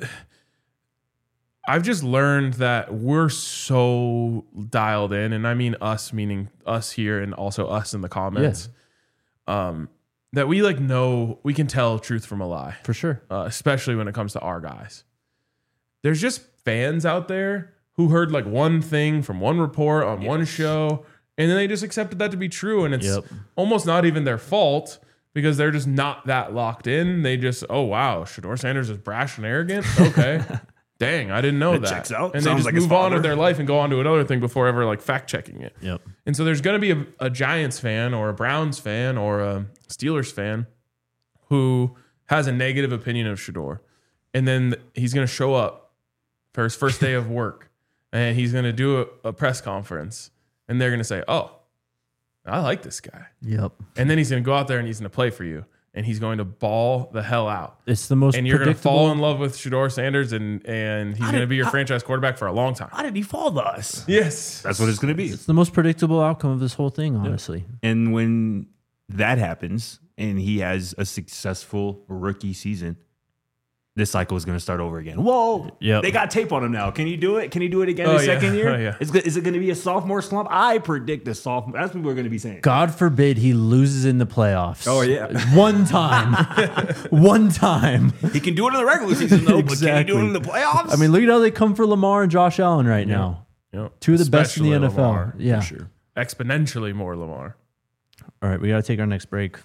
Speaker 1: I've just learned that we're so dialed in, and I mean us, meaning us here and also us in the comments, um, that we like know, we can tell truth from a lie,
Speaker 2: For sure.
Speaker 1: uh, especially when it comes to our guys. There's just fans out there who heard like one thing from one report on one show, and then they just accepted that to be true, and it's
Speaker 2: Yep.
Speaker 1: almost not even their fault because they're just not that locked in. They just, oh wow, Shedeur Sanders is brash and arrogant. Okay. Dang, I didn't know
Speaker 3: That
Speaker 1: that.
Speaker 3: checks out.
Speaker 1: And they
Speaker 3: Sounds
Speaker 1: just
Speaker 3: like his
Speaker 1: move on
Speaker 3: father.
Speaker 1: with their life and go on to another thing before ever like fact checking it.
Speaker 2: Yep.
Speaker 1: And so there's going to be a, a Giants fan or a Browns fan or a Steelers fan who has a negative opinion of Shedeur. And then he's going to show up for his first day of work and he's going to do a, a press conference and they're going to say, oh, I like this guy.
Speaker 2: Yep.
Speaker 1: And then he's going to go out there and he's going to play for you and he's going to ball the hell out.
Speaker 2: It's the most
Speaker 1: And you're going to
Speaker 2: predictable.
Speaker 1: fall in love with Shedeur Sanders and, and he's going to be your franchise quarterback for a long time.
Speaker 3: How did he fall to us?
Speaker 1: Yes.
Speaker 3: That's what it's going to be.
Speaker 2: It's the most predictable outcome of this whole thing, honestly.
Speaker 3: And when that happens and he has a successful rookie season, this cycle is going to start over again. Whoa.
Speaker 2: Yep.
Speaker 3: They got tape on him now. Can you do it? Can he do it again
Speaker 1: Oh,
Speaker 3: the
Speaker 1: yeah.
Speaker 3: second year?
Speaker 1: Oh, yeah.
Speaker 3: Is, is it going to be a sophomore slump? I predict a sophomore. That's what we're going to be saying.
Speaker 2: God forbid he loses in the playoffs.
Speaker 3: Oh, yeah.
Speaker 2: One time. One time.
Speaker 3: He can do it in the regular season, though, but can he do it in the
Speaker 2: Exactly.
Speaker 3: playoffs?
Speaker 2: I mean, look at how they come for Lamar and Josh Allen right now.
Speaker 1: Yep.
Speaker 2: Two of the best in the
Speaker 1: Especially
Speaker 2: N F L.
Speaker 1: Lamar, for
Speaker 2: Yeah.
Speaker 1: sure. Exponentially more Lamar.
Speaker 2: All right, we got to take our next break.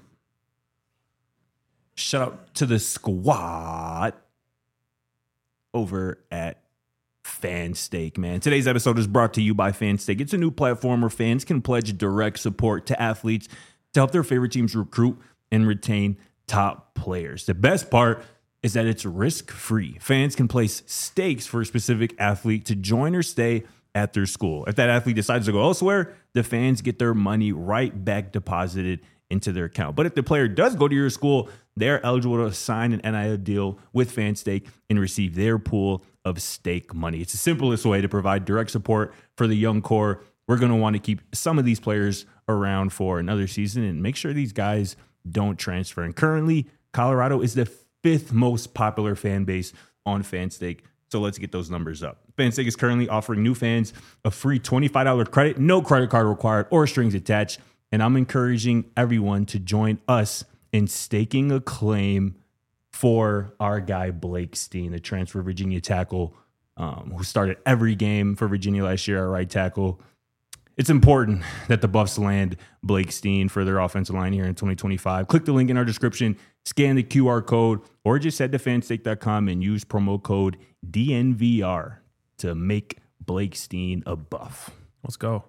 Speaker 3: Shout out to the squad over at FanStake, man. Today's episode is brought to you by FanStake. It's a new platform where fans can pledge direct support to athletes to help their favorite teams recruit and retain top players. The best part is that it's risk-free. Fans can place stakes for a specific athlete to join or stay at their school. If that athlete decides to go elsewhere, the fans get their money right back deposited into their account. But if the player does go to your school, they're eligible to sign an N I L deal with FanStake and receive their pool of stake money. It's the simplest way to provide direct support for the young core. We're going to want to keep some of these players around for another season and make sure these guys don't transfer. And currently, Colorado is the fifth most popular fan base on FanStake. So let's get those numbers up. FanStake is currently offering new fans a free twenty-five dollars credit, no credit card required or strings attached. And I'm encouraging everyone to join us in staking a claim for our guy Blake Steen, the transfer Virginia tackle um, who started every game for Virginia last year at right tackle. It's important that the Buffs land Blake Steen for their offensive line here in twenty twenty-five. Click the link in our description, scan the Q R code, or just head to fanstake dot com and use promo code D N V R to make Blake Steen a Buff.
Speaker 1: Let's go.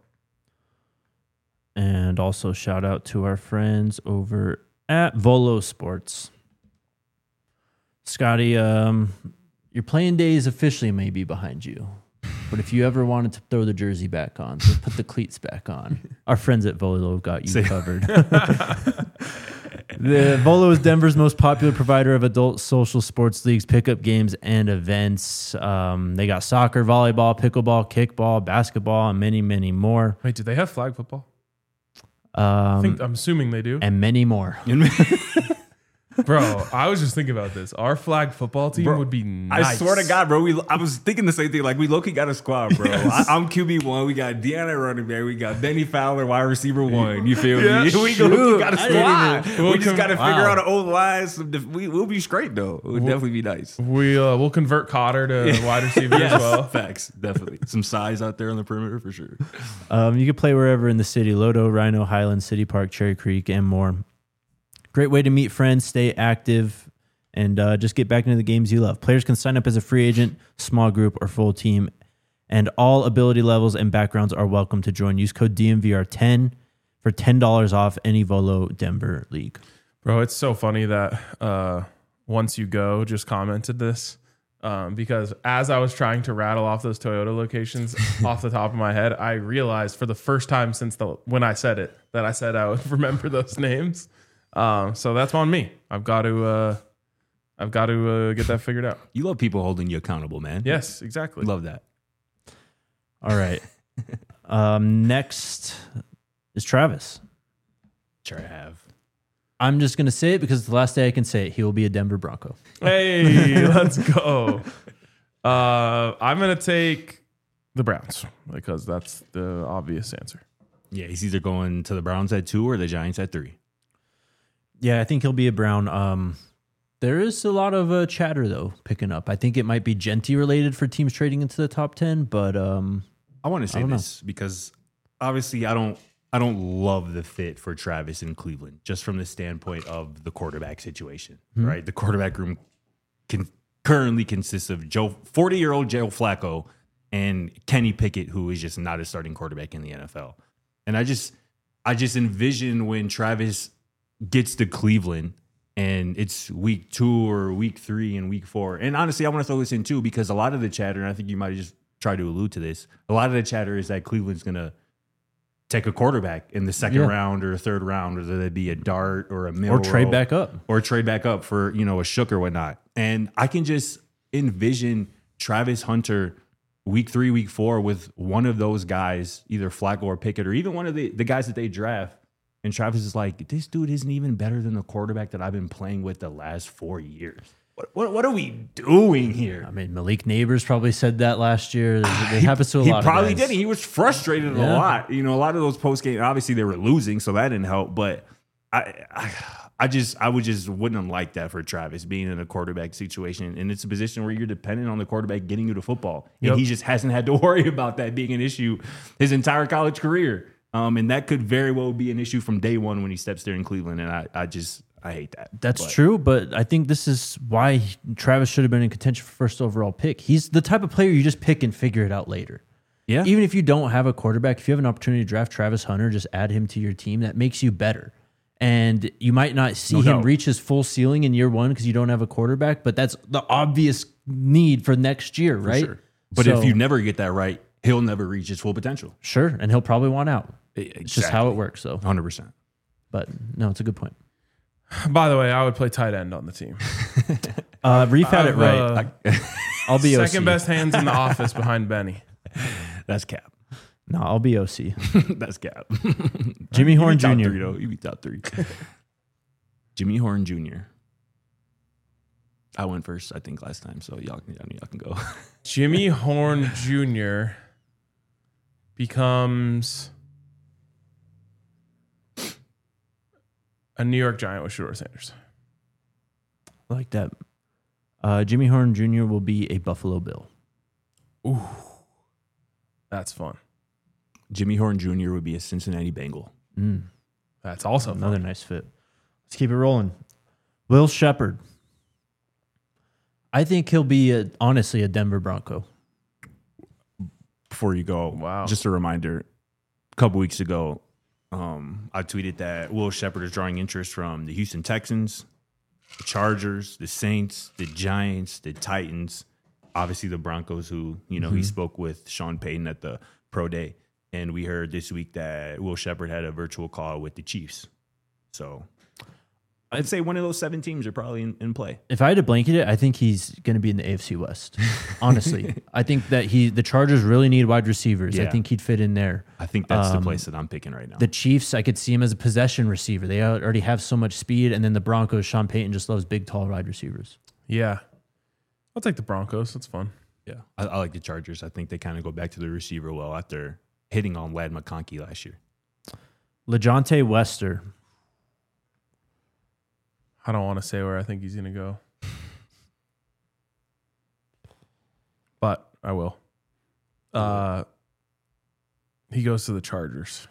Speaker 2: And also shout out to our friends over at Volo Sports. Scotty, um, your playing days officially may be behind you. But if you ever wanted to throw the jersey back on, so put the cleats back on, our friends at Volo have got you
Speaker 3: Say-
Speaker 2: covered. The Volo is Denver's most popular provider of adult social sports leagues, pickup games, and events. Um, they got soccer, volleyball, pickleball, kickball, basketball, and many, many more.
Speaker 1: Wait, do they have flag football?
Speaker 2: Um,
Speaker 1: I think I'm assuming they do.
Speaker 2: and many more.
Speaker 1: Bro, I was just thinking about this. Our flag football team
Speaker 3: Bro,
Speaker 1: would be nice.
Speaker 3: I swear to God, bro. We I was thinking the same thing. Like we low key got a squad, bro.
Speaker 1: Yes.
Speaker 3: I, I'm Q B one. We got Deanna running back. We got Benny Fowler, wide receiver one. You feel
Speaker 1: Yeah,
Speaker 3: me? We, go, we got a
Speaker 2: I didn't
Speaker 3: squad.
Speaker 1: even-
Speaker 3: we
Speaker 1: We'll
Speaker 3: just
Speaker 1: com-
Speaker 3: got to
Speaker 2: wow.
Speaker 3: figure out an old line. Some def- we, we'll be straight though. It would definitely be nice.
Speaker 1: We uh, we'll convert Cotter to wide receiver as well.
Speaker 3: Facts, definitely. Some size out there on the perimeter for sure.
Speaker 2: Um, you can play wherever in the city: Lodo, Rhino, Highland, City Park, Cherry Creek, and more. Great way to meet friends, stay active, and uh, just get back into the games you love. Players can sign up as a free agent, small group, or full team, and all ability levels and backgrounds are welcome to join. Use code D M V R ten for ten dollars off any Volo Denver league.
Speaker 1: Bro, it's so funny that uh, Once You Go just commented this um, because as I was trying to rattle off those Toyota locations off the top of my head, I realized for the first time since the when I said it that I said I would remember those names. Um, so that's on me. I've got to uh, I've got to uh, get that figured out.
Speaker 3: You love people holding you accountable, man.
Speaker 1: Yes, exactly.
Speaker 3: Love that.
Speaker 2: All right. um, next is Travis.
Speaker 3: Sure have.
Speaker 2: I'm just going to say it because it's the last day I can say it. He will be a Denver Bronco.
Speaker 1: Hey, let's go. Uh, I'm gonna take the Browns because that's the obvious answer.
Speaker 3: Yeah, he's either going to the Browns at two or the Giants at three.
Speaker 2: Yeah, I think he'll be a Brown. Um, there is a lot of uh, chatter, though, picking up. I think it might be Genty related for teams trading into the top ten, but um,
Speaker 3: I want to say
Speaker 2: don't know.
Speaker 3: this because obviously I don't I don't love the fit for Travis in Cleveland, just from the standpoint of the quarterback situation,
Speaker 2: Hmm.
Speaker 3: right? The quarterback room can currently consists of Joe forty-year-old Joe Flacco and Kenny Pickett, who is just not a starting quarterback in the N F L. And I just I just envision when Travis gets to Cleveland and it's week two or week three and week four. And honestly, I want to throw this in too, because a lot of the chatter, and I think you might have just tried to allude to this, a lot of the chatter is that Cleveland's going to take a quarterback in the second
Speaker 2: Yeah.
Speaker 3: round or third round, whether that be a Dart or a Milrow.
Speaker 2: or trade back up.
Speaker 3: Or trade back up for, you know, a Shook or whatnot. And I can just envision Travis Hunter week three, week four with one of those guys, either Flacco or Pickett, or even one of the, the guys that they draft. And Travis is like, this dude isn't even better than the quarterback that I've been playing with the last four years. What what, what are we doing here?
Speaker 2: I mean, Malik Neighbors probably said that last year. It happens to a
Speaker 3: He
Speaker 2: lot
Speaker 3: probably
Speaker 2: of guys.
Speaker 3: did. He was frustrated
Speaker 2: Yeah.
Speaker 3: a lot. You know, a lot of those post game, obviously they were losing, so that didn't help. But I, I, I just, I would just wouldn't like that for Travis being in a quarterback situation, and it's a position where you're dependent on the quarterback getting you the football, and
Speaker 1: Yep.
Speaker 3: he just hasn't had to worry about that being an issue his entire college career. Um, and that could very well be an issue from day one when he steps there in Cleveland. And I, I just, I hate that.
Speaker 2: That's
Speaker 3: But-
Speaker 2: true, but I think this is why Travis should have been in contention for first overall pick. He's the type of player you just pick and figure it out later.
Speaker 3: Yeah.
Speaker 2: Even if you don't have a quarterback, if you have an opportunity to draft Travis Hunter, just add him to your team. That makes you better. And you might not see
Speaker 3: No
Speaker 2: him
Speaker 3: doubt.
Speaker 2: reach his full ceiling in year one because you don't have a quarterback, but that's the obvious need for next year, right?
Speaker 3: Sure. But
Speaker 2: So-
Speaker 3: if you never get that right, he'll never reach his full potential.
Speaker 2: Sure, and he'll probably want out.
Speaker 3: Exactly.
Speaker 2: It's just how it works, though.
Speaker 3: one hundred percent.
Speaker 2: But no, it's a good point.
Speaker 1: By the way, I would play tight end on the team.
Speaker 2: Uh, Reef had it
Speaker 1: I've,
Speaker 2: right.
Speaker 1: uh,
Speaker 2: I'll be O C.
Speaker 1: second best hands in the office behind Benny.
Speaker 3: That's cap.
Speaker 2: No, I'll be O C.
Speaker 3: That's cap.
Speaker 2: Jimmy
Speaker 3: You
Speaker 2: Horn
Speaker 3: be top
Speaker 2: Junior
Speaker 3: Three, though. You be top three. Jimmy Horn Junior I went first, I think, last time, so y'all can, y'all can go.
Speaker 1: Jimmy Horn Junior becomes a New York Giant with Shedeur Sanders.
Speaker 2: I like that. Uh, Jimmy Horn Junior will be a Buffalo Bill.
Speaker 1: Ooh, that's fun.
Speaker 3: Jimmy Horn Junior would be a Cincinnati Bengal.
Speaker 2: Mm,
Speaker 1: That's also fun.
Speaker 2: another nice fit. Let's keep it rolling. Will Shepard. I think he'll be, a, honestly, a Denver Bronco.
Speaker 3: Before you go,
Speaker 1: Wow.
Speaker 3: just a reminder, a couple weeks ago, um, I tweeted that Will Shepard is drawing interest from the Houston Texans, the Chargers, the Saints, the Giants, the Titans, obviously the Broncos, who, you know, he spoke with Sean Payton at the Pro Day. And we heard this week that Will Shepard had a virtual call with the Chiefs. So I'd say one of those seven teams are probably in, in play.
Speaker 2: If I had to blanket it, I think he's going to be in the A F C West. Honestly, I think that he the Chargers really need wide receivers. I
Speaker 3: Yeah.
Speaker 2: think he'd fit in there.
Speaker 3: I think that's
Speaker 2: Um,
Speaker 3: the place that I'm picking right now.
Speaker 2: The Chiefs, I could see him as a possession receiver. They already have so much speed, and then the Broncos, Sean Payton just loves big, tall wide receivers.
Speaker 1: Yeah. I'll take the Broncos. That's fun.
Speaker 3: yeah, I, I like the Chargers. I think they kind of go back to the receiver well after hitting on Lad McConkey last year.
Speaker 2: LeJohntay Wester.
Speaker 1: I don't want to say where I think he's going to go. But I will. Uh, he goes to the Chargers.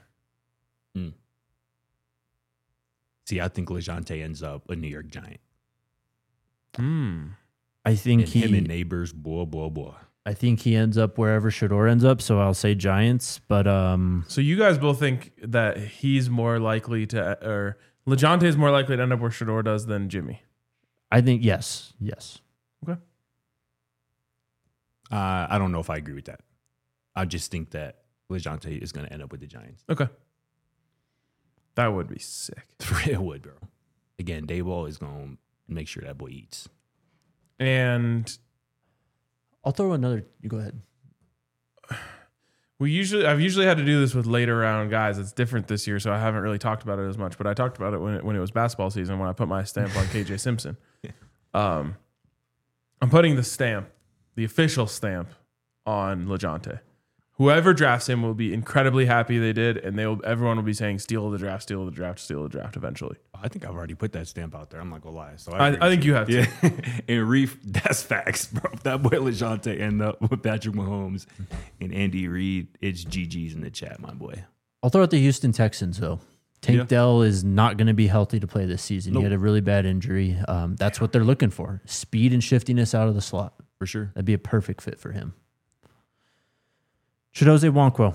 Speaker 3: See, I think LeJohntay ends up a New York Giant.
Speaker 1: Hmm.
Speaker 2: I think
Speaker 3: And
Speaker 2: he.
Speaker 3: him and neighbors, boy, boy, boy.
Speaker 2: I think he ends up wherever Shador ends up. So I'll say Giants. But um,
Speaker 1: So you guys both think that he's more likely to, or LeJohntay is more likely to end up where Shador does than Jimmy.
Speaker 2: I think yes, yes.
Speaker 1: Okay.
Speaker 3: Uh, I don't know if I agree with that. I just think that LeJohntay is going to end up with the Giants.
Speaker 1: Okay. That would be sick.
Speaker 3: It would, bro. Again, Dayball is going to make sure that boy eats.
Speaker 1: And
Speaker 2: I'll throw another. You go ahead.
Speaker 1: we usually, I've usually had to do this with later round guys. It's different this year, so I haven't really talked about it as much. But I talked about it when it, when it was basketball season, when I put my stamp on K J Simpson. Um, I'm putting the stamp, the official stamp, on LeJohntay. Whoever drafts him will be incredibly happy they did, and they will. Everyone will be saying, "Steal the draft, steal the draft, steal the draft." Eventually,
Speaker 3: I think I've already put that stamp out there. I'm not going to lie. So
Speaker 1: I,
Speaker 3: agree
Speaker 1: I
Speaker 3: with
Speaker 1: think you have to.
Speaker 3: Yeah. And Reef, that's facts, bro. If that boy LeJohntay end up with Patrick Mahomes and Andy Reid, it's G G's in the chat, my boy.
Speaker 2: I'll throw out the Houston Texans though. Tank
Speaker 3: Yeah.
Speaker 2: Dell is not going to be healthy to play this season.
Speaker 3: Nope.
Speaker 2: He had a really bad injury. Um, that's what they're looking for: speed and shiftiness out of the slot.
Speaker 3: For sure.
Speaker 2: That'd be a perfect fit for him. Chidozie Nwankwo.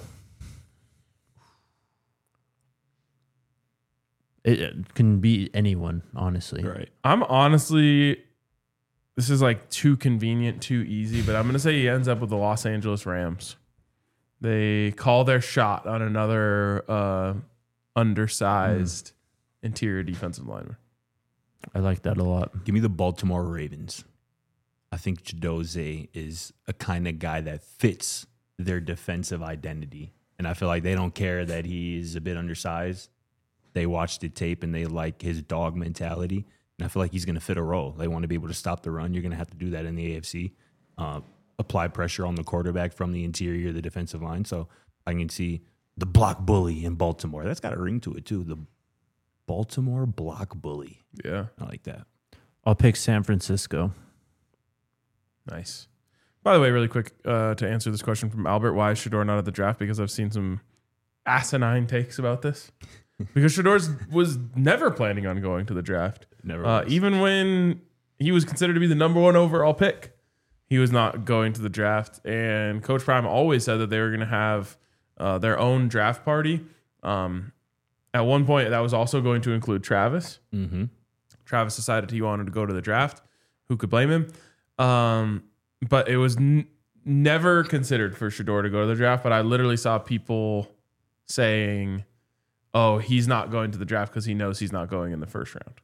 Speaker 2: It, it can be anyone, honestly.
Speaker 3: Right.
Speaker 1: I'm honestly, this is like too convenient, too easy, but I'm going to say he ends up with the Los Angeles Rams. They call their shot on another uh, undersized interior defensive lineman.
Speaker 2: I like that a lot.
Speaker 3: Give me the Baltimore Ravens. I think Chidozie is a kind of guy that fits their defensive identity. And I feel like they don't care that he's a bit undersized. They watch the tape and they like his dog mentality. And I feel like he's going to fit a role. They want to be able to stop the run. You're going to have to do that in the A F C. Uh, apply pressure on the quarterback from the interior of the defensive line. So I can see the block bully in Baltimore. That's got a ring to it too. The Baltimore block bully.
Speaker 1: Yeah.
Speaker 3: I like that.
Speaker 2: I'll pick San Francisco.
Speaker 1: Nice. By the way, really quick uh, to answer this question from Albert, why is Shador not at the draft? Because I've seen some asinine takes about this. Because Shador was never planning on going to the draft.
Speaker 3: Never
Speaker 1: Uh,
Speaker 3: was.
Speaker 1: even when he was considered to be the number one overall pick, he was not going to the draft. And Coach Prime always said that they were going to have uh, their own draft party. Um, at one point, that was also going to include Travis.
Speaker 3: Mm-hmm.
Speaker 1: Travis decided he wanted to go to the draft. Who could blame him? Um, but it was n- never considered for Shador to go to the draft. But I literally saw people saying, oh, he's not going to the draft because he knows he's not going in the first round.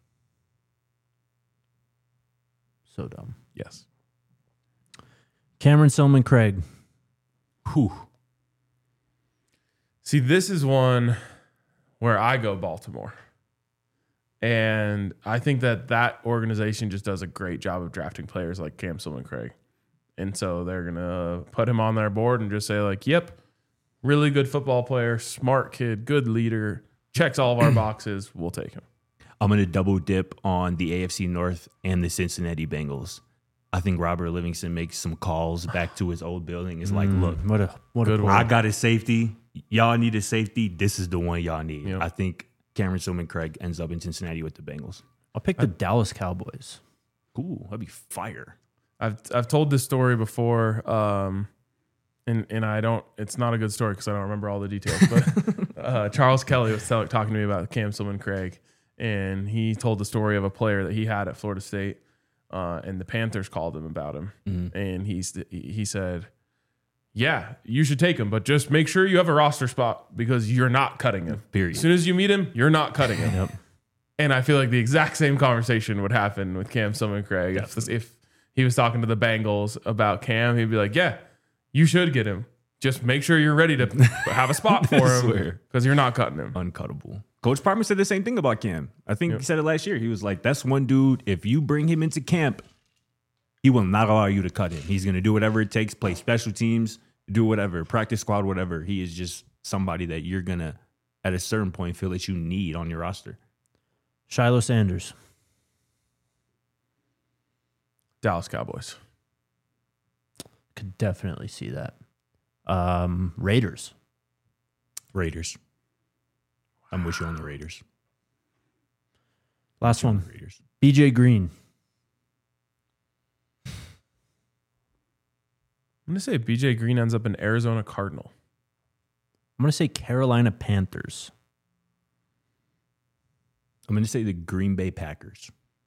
Speaker 2: So dumb.
Speaker 1: Yes.
Speaker 2: Cameron Silman Craig.
Speaker 3: Whew.
Speaker 1: See, this is one where I go Baltimore. And I think that that organization just does a great job of drafting players like Cam Silman Craig. And so they're going to put him on their board and just say, like, yep, really good football player, smart kid, good leader, checks all of our boxes. We'll take him.
Speaker 3: I'm going to double dip on the A F C North and the Cincinnati Bengals. I think Robert Livingston makes some calls back to his old building. It's like, look,
Speaker 2: What a what
Speaker 1: Good
Speaker 2: a
Speaker 1: one.
Speaker 3: I got a safety. Y'all need a safety. This is the one y'all need.
Speaker 1: Yep.
Speaker 3: I think Cameron Silman Craig ends up in Cincinnati with the Bengals.
Speaker 2: I'll pick the Dallas Cowboys.
Speaker 3: Ooh, that'd be fire.
Speaker 1: I've I've told this story before, um, and and I don't. It's not a good story because I don't remember all the details. But uh, Charles Kelly was tell, talking to me about Cam Silman Craig, and he told the story of a player that he had at Florida State, uh, and the Panthers called him about him,
Speaker 3: Mm-hmm.
Speaker 1: and he's he said, "Yeah, you should take him, but just make sure you have a roster spot because you're not cutting him.
Speaker 3: Period.
Speaker 1: As soon as you meet him, you're not cutting him."
Speaker 2: Yep.
Speaker 1: And I feel like the exact same conversation would happen with Cam Summercraig. If, this, if he was talking to the Bengals about Cam, he'd be like, yeah, you should get him. Just make sure you're ready to have a spot for him because you're not cutting him.
Speaker 3: Uncuttable. Coach Parma said the same thing about Cam. I think
Speaker 1: Yep.
Speaker 3: he said it last year. He was like, that's one dude, if you bring him into camp, he will not allow you to cut him. He's going to do whatever it takes, play special teams, do whatever, practice squad, whatever. He is just somebody that you're going to, at a certain point, feel that you need on your roster.
Speaker 2: Shiloh Sanders.
Speaker 1: Dallas Cowboys.
Speaker 2: Could definitely see that. Um, Raiders.
Speaker 3: Raiders. I'm with you on the Raiders.
Speaker 2: Last one.
Speaker 3: Raiders.
Speaker 2: B J Green.
Speaker 1: I'm going to say B J Green ends up in Arizona Cardinal.
Speaker 2: I'm going to say Carolina Panthers.
Speaker 3: I'm going to say the Green Bay Packers.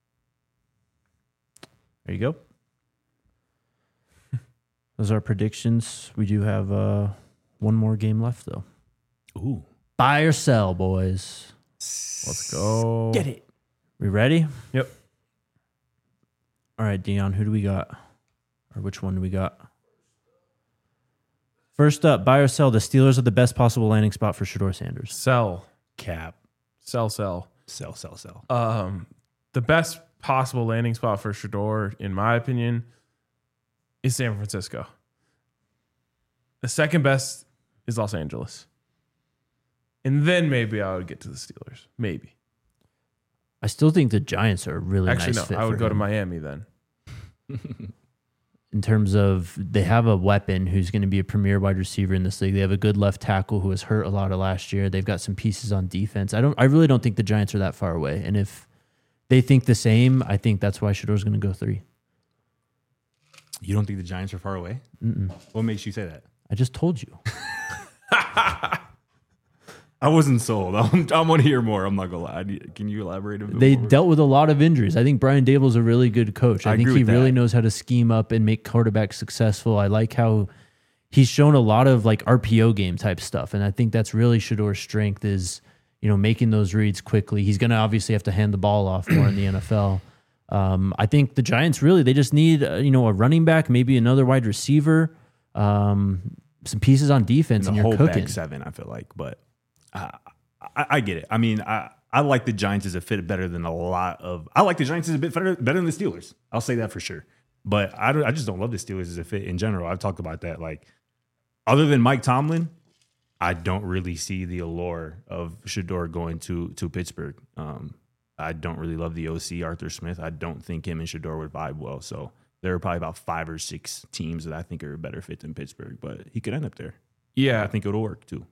Speaker 2: There you go. Those are our predictions. We do have uh, one more game left, though.
Speaker 3: Ooh.
Speaker 2: Buy or sell, boys.
Speaker 1: Let's go.
Speaker 3: Get it.
Speaker 2: We ready?
Speaker 1: Yep.
Speaker 2: All right, Dion, who do we got? Or which one do we got? First up, buy or sell. The Steelers are the best possible landing spot for Shedeur Sanders.
Speaker 1: Sell.
Speaker 3: Cap.
Speaker 1: Sell, sell.
Speaker 3: Sell, sell, sell.
Speaker 1: Um, the best possible landing spot for Shedeur, in my opinion, is San Francisco. The second best is Los Angeles. And then maybe I would get to the Steelers. Maybe.
Speaker 2: I still think the Giants are a really
Speaker 1: Actually,
Speaker 2: nice
Speaker 1: no.
Speaker 2: fit
Speaker 1: I would
Speaker 2: for
Speaker 1: go to
Speaker 2: him.
Speaker 1: Miami then.
Speaker 2: In terms of they have a weapon who's going to be a premier wide receiver in this league. They have a good left tackle who was hurt a lot of last year. They've got some pieces on defense. I don't. I really don't think the Giants are that far away. And if they think the same, I think that's why Shedeur's going to go three.
Speaker 3: You don't think the Giants are far away?
Speaker 2: Mm-mm.
Speaker 3: What makes you say that?
Speaker 2: I just told you.
Speaker 3: I wasn't sold. I'm, I want to hear more. I'm not gonna lie. I need- Can you elaborate a bit
Speaker 2: They
Speaker 3: more?
Speaker 2: dealt with a lot of injuries. I think Brian Dable's a really good coach. I,
Speaker 3: I
Speaker 2: think
Speaker 3: agree
Speaker 2: he
Speaker 3: with
Speaker 2: really
Speaker 3: that.
Speaker 2: knows how to scheme up and make quarterbacks successful. I like how he's shown a lot of like R P O game type stuff, and I think that's really Shedeur's strength is you know making those reads quickly. He's going to obviously have to hand the ball off more in the N F L. Um, I think the Giants really they just need uh, you know a running back, maybe another wide receiver, um, some pieces on defense,
Speaker 3: And
Speaker 2: and,
Speaker 3: the
Speaker 2: you're
Speaker 3: whole
Speaker 2: cooking.
Speaker 3: back seven, I feel like. But uh, I, I get it. I mean, I, I like the Giants as a fit better than a lot of. I like the Giants as a bit better, better than the Steelers. I'll say that for sure. But I, don't, I just don't love the Steelers as a fit in general. I've talked about that. Like, other than Mike Tomlin, I don't really see the allure of Shedeur going to to Pittsburgh. Um, I don't really love the O C, Arthur Smith. I don't think him and Shedeur would vibe well. So there are probably about five or six teams that I think are a better fit than Pittsburgh. But he could end up there.
Speaker 1: Yeah.
Speaker 3: I think it'll work too.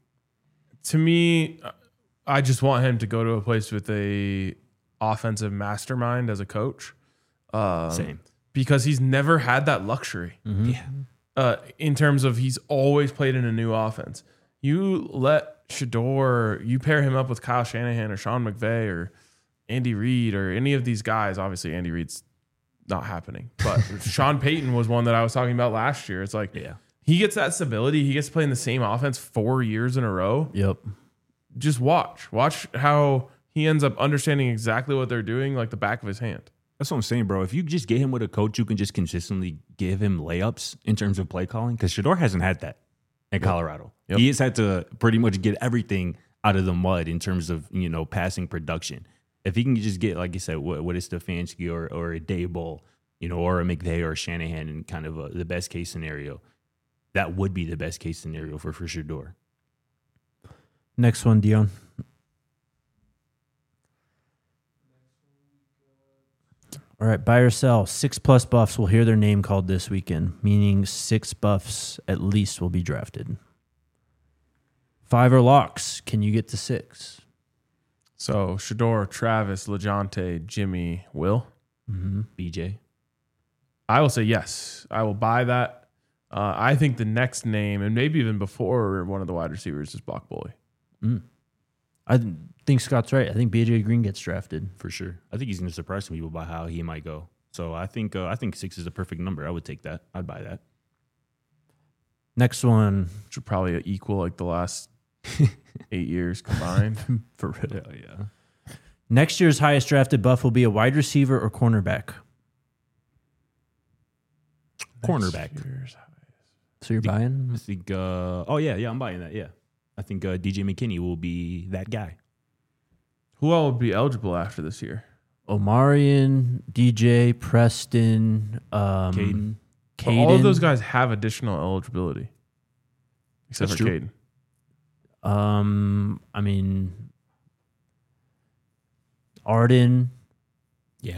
Speaker 1: To me, I just want him to go to a place with a offensive mastermind as a coach. Um,
Speaker 3: Same.
Speaker 1: Because he's never had that luxury.
Speaker 3: Yeah.
Speaker 1: Uh, in terms of he's always played in a new offense. You let Shedeur, you pair him up with Kyle Shanahan or Sean McVay or Andy Reid or any of these guys. Obviously, Andy Reid's not happening. But Sean Payton was one that I was talking about last year. It's like
Speaker 3: Yeah.
Speaker 1: he gets that stability. He gets to play in the same offense four years in a row.
Speaker 2: Yep.
Speaker 1: Just watch. Watch how he ends up understanding exactly what they're doing like the back of his hand.
Speaker 3: That's what I'm saying, bro. If you just get him with a coach who can just consistently give him layups in terms of play calling, because Shedeur hasn't had that in Colorado.
Speaker 1: Yep.
Speaker 3: He has had to pretty much get everything out of the mud in terms of, you know, passing production. If he can just get, like you said, what, what is Stefanski or, or a Daboll, you know, or a McVay or a Shanahan in kind of a, the best case scenario, that would be the best case scenario for, for Shedeur.
Speaker 2: Next one, Dion. All right, buy or sell. Six plus buffs will hear their name called this weekend, meaning six buffs at least will be drafted. Five or locks. Can you get to six?
Speaker 1: So Shedeur, Travis, LeJounte, Jimmy, Will.
Speaker 2: Mm-hmm.
Speaker 3: B J.
Speaker 1: I will say yes. I will buy that. Uh, I think the next name, and maybe even before one of the wide receivers, is Block Bully.
Speaker 2: Mm. I th- think Scott's right. I think B J Green gets drafted.
Speaker 3: For sure. I think he's going to surprise some people by how he might go. So I think uh, I think six is a perfect number. I would take that. I'd buy that.
Speaker 2: Next one.
Speaker 1: Which would probably equal like the last eight years combined.
Speaker 2: For real.
Speaker 3: Yeah, yeah.
Speaker 2: Next year's highest drafted buff will be a wide receiver or cornerback.
Speaker 3: Cornerback.
Speaker 2: So you're buying?
Speaker 3: I think. Uh, oh yeah, yeah, I'm buying that. Yeah, I think uh, D J McKinney will be that guy.
Speaker 1: Who all would be eligible after this year?
Speaker 2: Omarion, D J, Preston, um,
Speaker 3: Caden.
Speaker 1: Well, all of those guys have additional eligibility, except
Speaker 3: That's
Speaker 1: for
Speaker 3: true.
Speaker 1: Caden.
Speaker 2: Um, I mean, Arden.
Speaker 3: Yeah.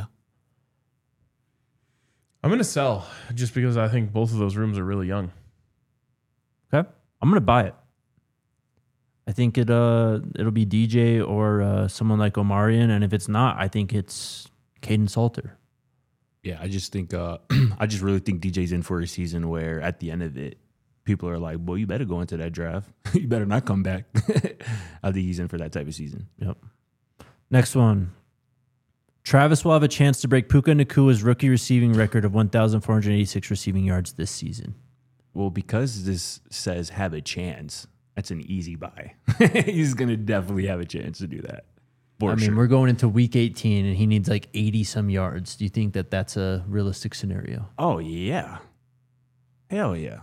Speaker 1: I'm going to sell just because I think both of those rooms are really young.
Speaker 2: Okay, I'm gonna buy it. I think it uh it'll be D J or uh, someone like Omarion, and if it's not, I think it's Caden Salter.
Speaker 3: Yeah, I just think uh, I just really think D J's in for a season where at the end of it, people are like, "Well, you better go into that draft. You better not come back." I think he's in for that type of season.
Speaker 2: Yep. Next one. Travis will have a chance to break Puka Nakua's rookie receiving record of one thousand four hundred eighty-six receiving yards this season.
Speaker 3: Well, because this says have a chance, that's an easy buy. He's gonna definitely have a chance to do that. For
Speaker 2: I mean,
Speaker 3: sure.
Speaker 2: we're going into week eighteen, and he needs like eighty some yards. Do you think that that's a realistic scenario?
Speaker 3: Oh yeah, hell yeah,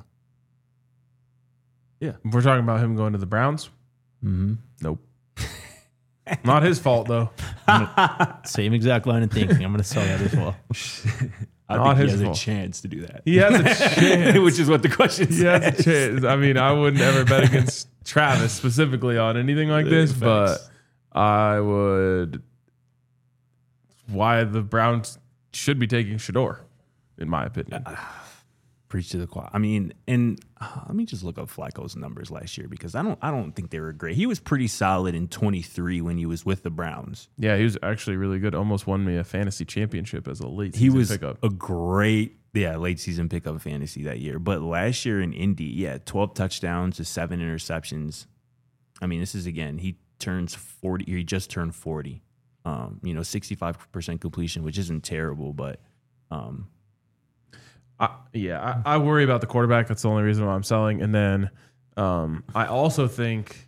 Speaker 3: yeah.
Speaker 1: If we're talking about him going to the Browns,
Speaker 2: Mm-hmm.
Speaker 1: nope. Not his fault, though.
Speaker 2: Same exact line of thinking. I'm going to sell that as well.
Speaker 3: I
Speaker 1: Not
Speaker 3: think he
Speaker 1: his
Speaker 3: has
Speaker 1: fault.
Speaker 3: a chance to do that.
Speaker 1: He has a chance.
Speaker 3: Which is what the question
Speaker 1: He
Speaker 3: says.
Speaker 1: has a chance. I mean, I wouldn't ever bet against Travis specifically on anything like this,
Speaker 3: Facts.
Speaker 1: but I would. Why the Browns should be taking Shador, in my opinion.
Speaker 3: Preach to the choir. I mean, and uh, let me just look up Flacco's numbers last year because I don't, I don't think they were great. He was pretty solid in twenty-three when he was with the Browns.
Speaker 1: Yeah, he was actually really good. Almost won me a fantasy championship as a late
Speaker 3: He
Speaker 1: season
Speaker 3: was
Speaker 1: pickup.
Speaker 3: a great, yeah, late season pickup fantasy that year. But last year in Indy, yeah, twelve touchdowns to seven interceptions. I mean, this is again, he turns forty. He just turned forty. Um, you know, sixty-five percent completion, which isn't terrible, but um,
Speaker 1: I, yeah, I, I worry about the quarterback. That's the only reason why I'm selling. And then um, I also think,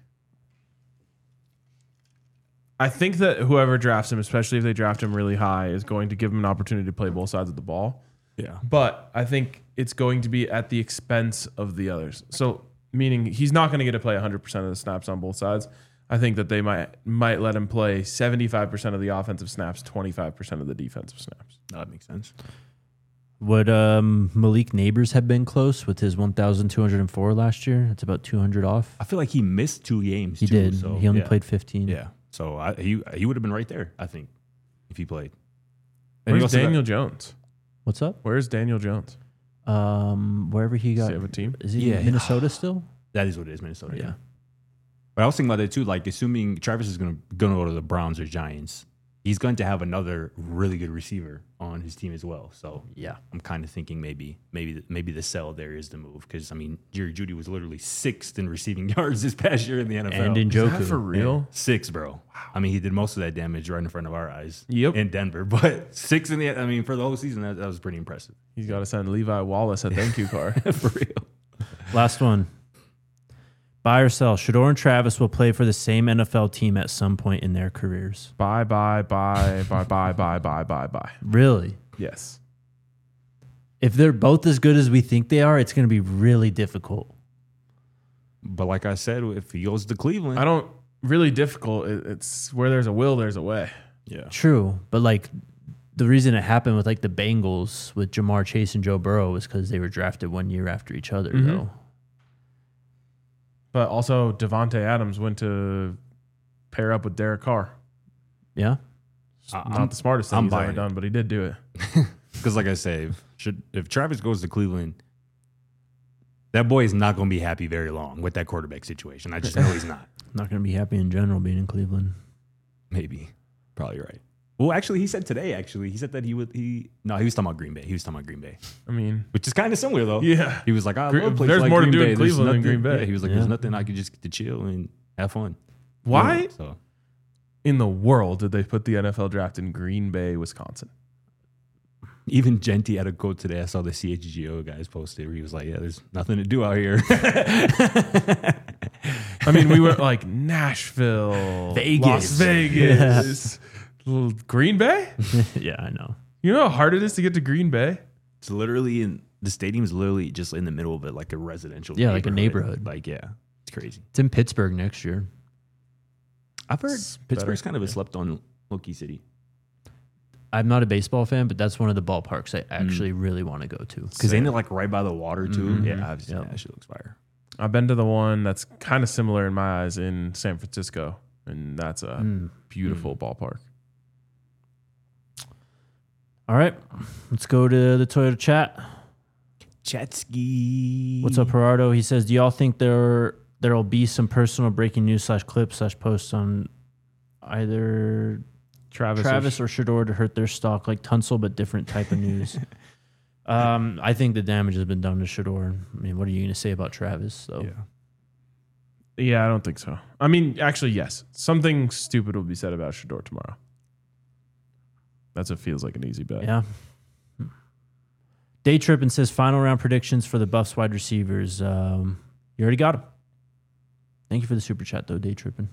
Speaker 1: I think that whoever drafts him, especially if they draft him really high, is going to give him an opportunity to play both sides of the ball.
Speaker 3: yeah,
Speaker 1: But I think it's going to be at the expense of the others. So meaning he's not going to get to play one hundred percent of the snaps on both sides. I think that they might might let him play seventy-five percent of the offensive snaps, twenty-five percent of the defensive snaps.
Speaker 3: that makes sense.
Speaker 2: Would um, Malik Neighbors have been close with his one thousand two hundred four last year? That's about two hundred off.
Speaker 3: I feel like he missed two games.
Speaker 2: He
Speaker 3: too,
Speaker 2: did.
Speaker 3: So,
Speaker 2: he only
Speaker 3: yeah.
Speaker 2: played fifteen.
Speaker 3: Yeah, so I, he he would have been right there. I think if he played. And he
Speaker 1: Where's
Speaker 3: also got-
Speaker 1: Daniel Jones?
Speaker 2: What's up?
Speaker 1: Where's Daniel Jones?
Speaker 2: Um, wherever he
Speaker 1: Does
Speaker 2: got.
Speaker 1: he have a team?
Speaker 2: Is he
Speaker 3: Yeah.
Speaker 2: Minnesota still?
Speaker 3: That is what it is, Minnesota. Yeah.
Speaker 2: Yeah.
Speaker 3: But I was thinking about that too. Like, assuming Travis is going to going to go to the Browns or Giants, he's going to have another really good receiver on his team as well. So
Speaker 2: Yeah.
Speaker 3: I'm kind of thinking maybe maybe maybe the sell there is the move because I mean Jerry Jeudy was literally sixth in receiving yards this past year in the N F L.
Speaker 2: And in
Speaker 1: Is that
Speaker 2: Joku.
Speaker 1: for real?
Speaker 3: Six, bro. Wow. I mean, he did most of that damage right in front of our eyes.
Speaker 1: Yep.
Speaker 3: In Denver, but six in the. I mean, for the whole season, that, that was pretty impressive.
Speaker 1: He's got to send Levi Wallace a thank you card.
Speaker 3: For real.
Speaker 2: Last one. Buy or sell. Shador and Travis will play for the same N F L team at some point in their careers.
Speaker 1: Bye, bye, bye, bye, bye, bye, bye, bye, bye.
Speaker 2: Really?
Speaker 1: Yes.
Speaker 2: If they're both as good as we think they are, it's going to be really difficult.
Speaker 3: But like I said, if he goes to Cleveland,
Speaker 1: I don't really difficult. It- It's where there's a will, there's a way.
Speaker 3: yeah.
Speaker 2: True, but like the reason it happened with like the Bengals with Jamar Chase and Joe Burrow was because they were drafted one year after each other,
Speaker 1: Mhm.
Speaker 2: though.
Speaker 1: But also, Devontae Adams went to pair up with Derek Carr.
Speaker 2: Yeah.
Speaker 1: It's
Speaker 3: I-
Speaker 1: not
Speaker 3: I'm-
Speaker 1: the smartest thing
Speaker 3: I'm
Speaker 1: he's ever
Speaker 3: buying it.
Speaker 1: done, but he did do it.
Speaker 3: Because like I say, if, should, if Travis goes to Cleveland, that boy is not going to be happy very long with that quarterback situation. I just know he's not.
Speaker 2: Not going to be happy in general being in Cleveland.
Speaker 3: Maybe. Probably right. Well, actually, he said today, actually, he said that he would, he, no, he was talking about Green Bay. He was talking about Green Bay,
Speaker 1: I mean,
Speaker 3: which is kind of similar, though.
Speaker 1: yeah.
Speaker 3: He was like, I
Speaker 1: Gre-
Speaker 3: love places
Speaker 1: there's
Speaker 3: like
Speaker 1: more to
Speaker 3: Green
Speaker 1: do in
Speaker 3: Bay. There's
Speaker 1: Cleveland than
Speaker 3: nothing-
Speaker 1: Green Bay.
Speaker 3: Yeah, he was like,
Speaker 2: Yeah.
Speaker 3: there's nothing I could just get to chill and have fun.
Speaker 1: Why
Speaker 3: Yeah, so
Speaker 1: in the world did they put the N F L draft in Green Bay, Wisconsin?
Speaker 3: even Genty had a quote today. I saw the C H G O guys posted where he was like, yeah, there's nothing to do out here.
Speaker 1: I mean, we were like Nashville,
Speaker 2: Vegas.
Speaker 1: Las Vegas, Green Bay?
Speaker 2: Yeah, I know.
Speaker 1: You know how hard it is to get to Green Bay?
Speaker 3: It's literally in the stadium's literally just in the middle of it, like a residential.
Speaker 2: Yeah, like a neighborhood.
Speaker 3: Like yeah, it's crazy.
Speaker 2: It's in Pittsburgh next year.
Speaker 3: I've heard
Speaker 1: It's
Speaker 3: Pittsburgh's
Speaker 1: better.
Speaker 3: kind of a slept on low-key city.
Speaker 2: I'm not a baseball fan, but that's one of the ballparks I actually really want to go to.
Speaker 3: Because ain't it like right by the water too?
Speaker 2: Mhm.
Speaker 3: Yeah, I've seen
Speaker 2: Yep.
Speaker 3: that shit looks fire.
Speaker 1: I've been to the one that's kind of similar in my eyes in San Francisco, and that's a
Speaker 2: Mm.
Speaker 1: beautiful ballpark.
Speaker 2: All right, let's go to the Toyota chat.
Speaker 3: Chatsky.
Speaker 2: What's up, Gerardo? He says, do y'all think there there'll be some personal breaking news slash clips slash posts on either
Speaker 1: Travis,
Speaker 2: Travis or Shador to hurt their stock like Tunsil, but different type of news? um, I think the damage has been done to Shador. I mean, what are you going to say about Travis? So
Speaker 3: Yeah.
Speaker 1: Yeah, I don't think so. I mean, actually, yes. Something stupid will be said about Shador tomorrow. That's what feels like an easy bet.
Speaker 2: yeah. Day Trippin says final round predictions for the Buffs wide receivers. Um, you already got them. Thank you for the super chat, though, Day Trippin.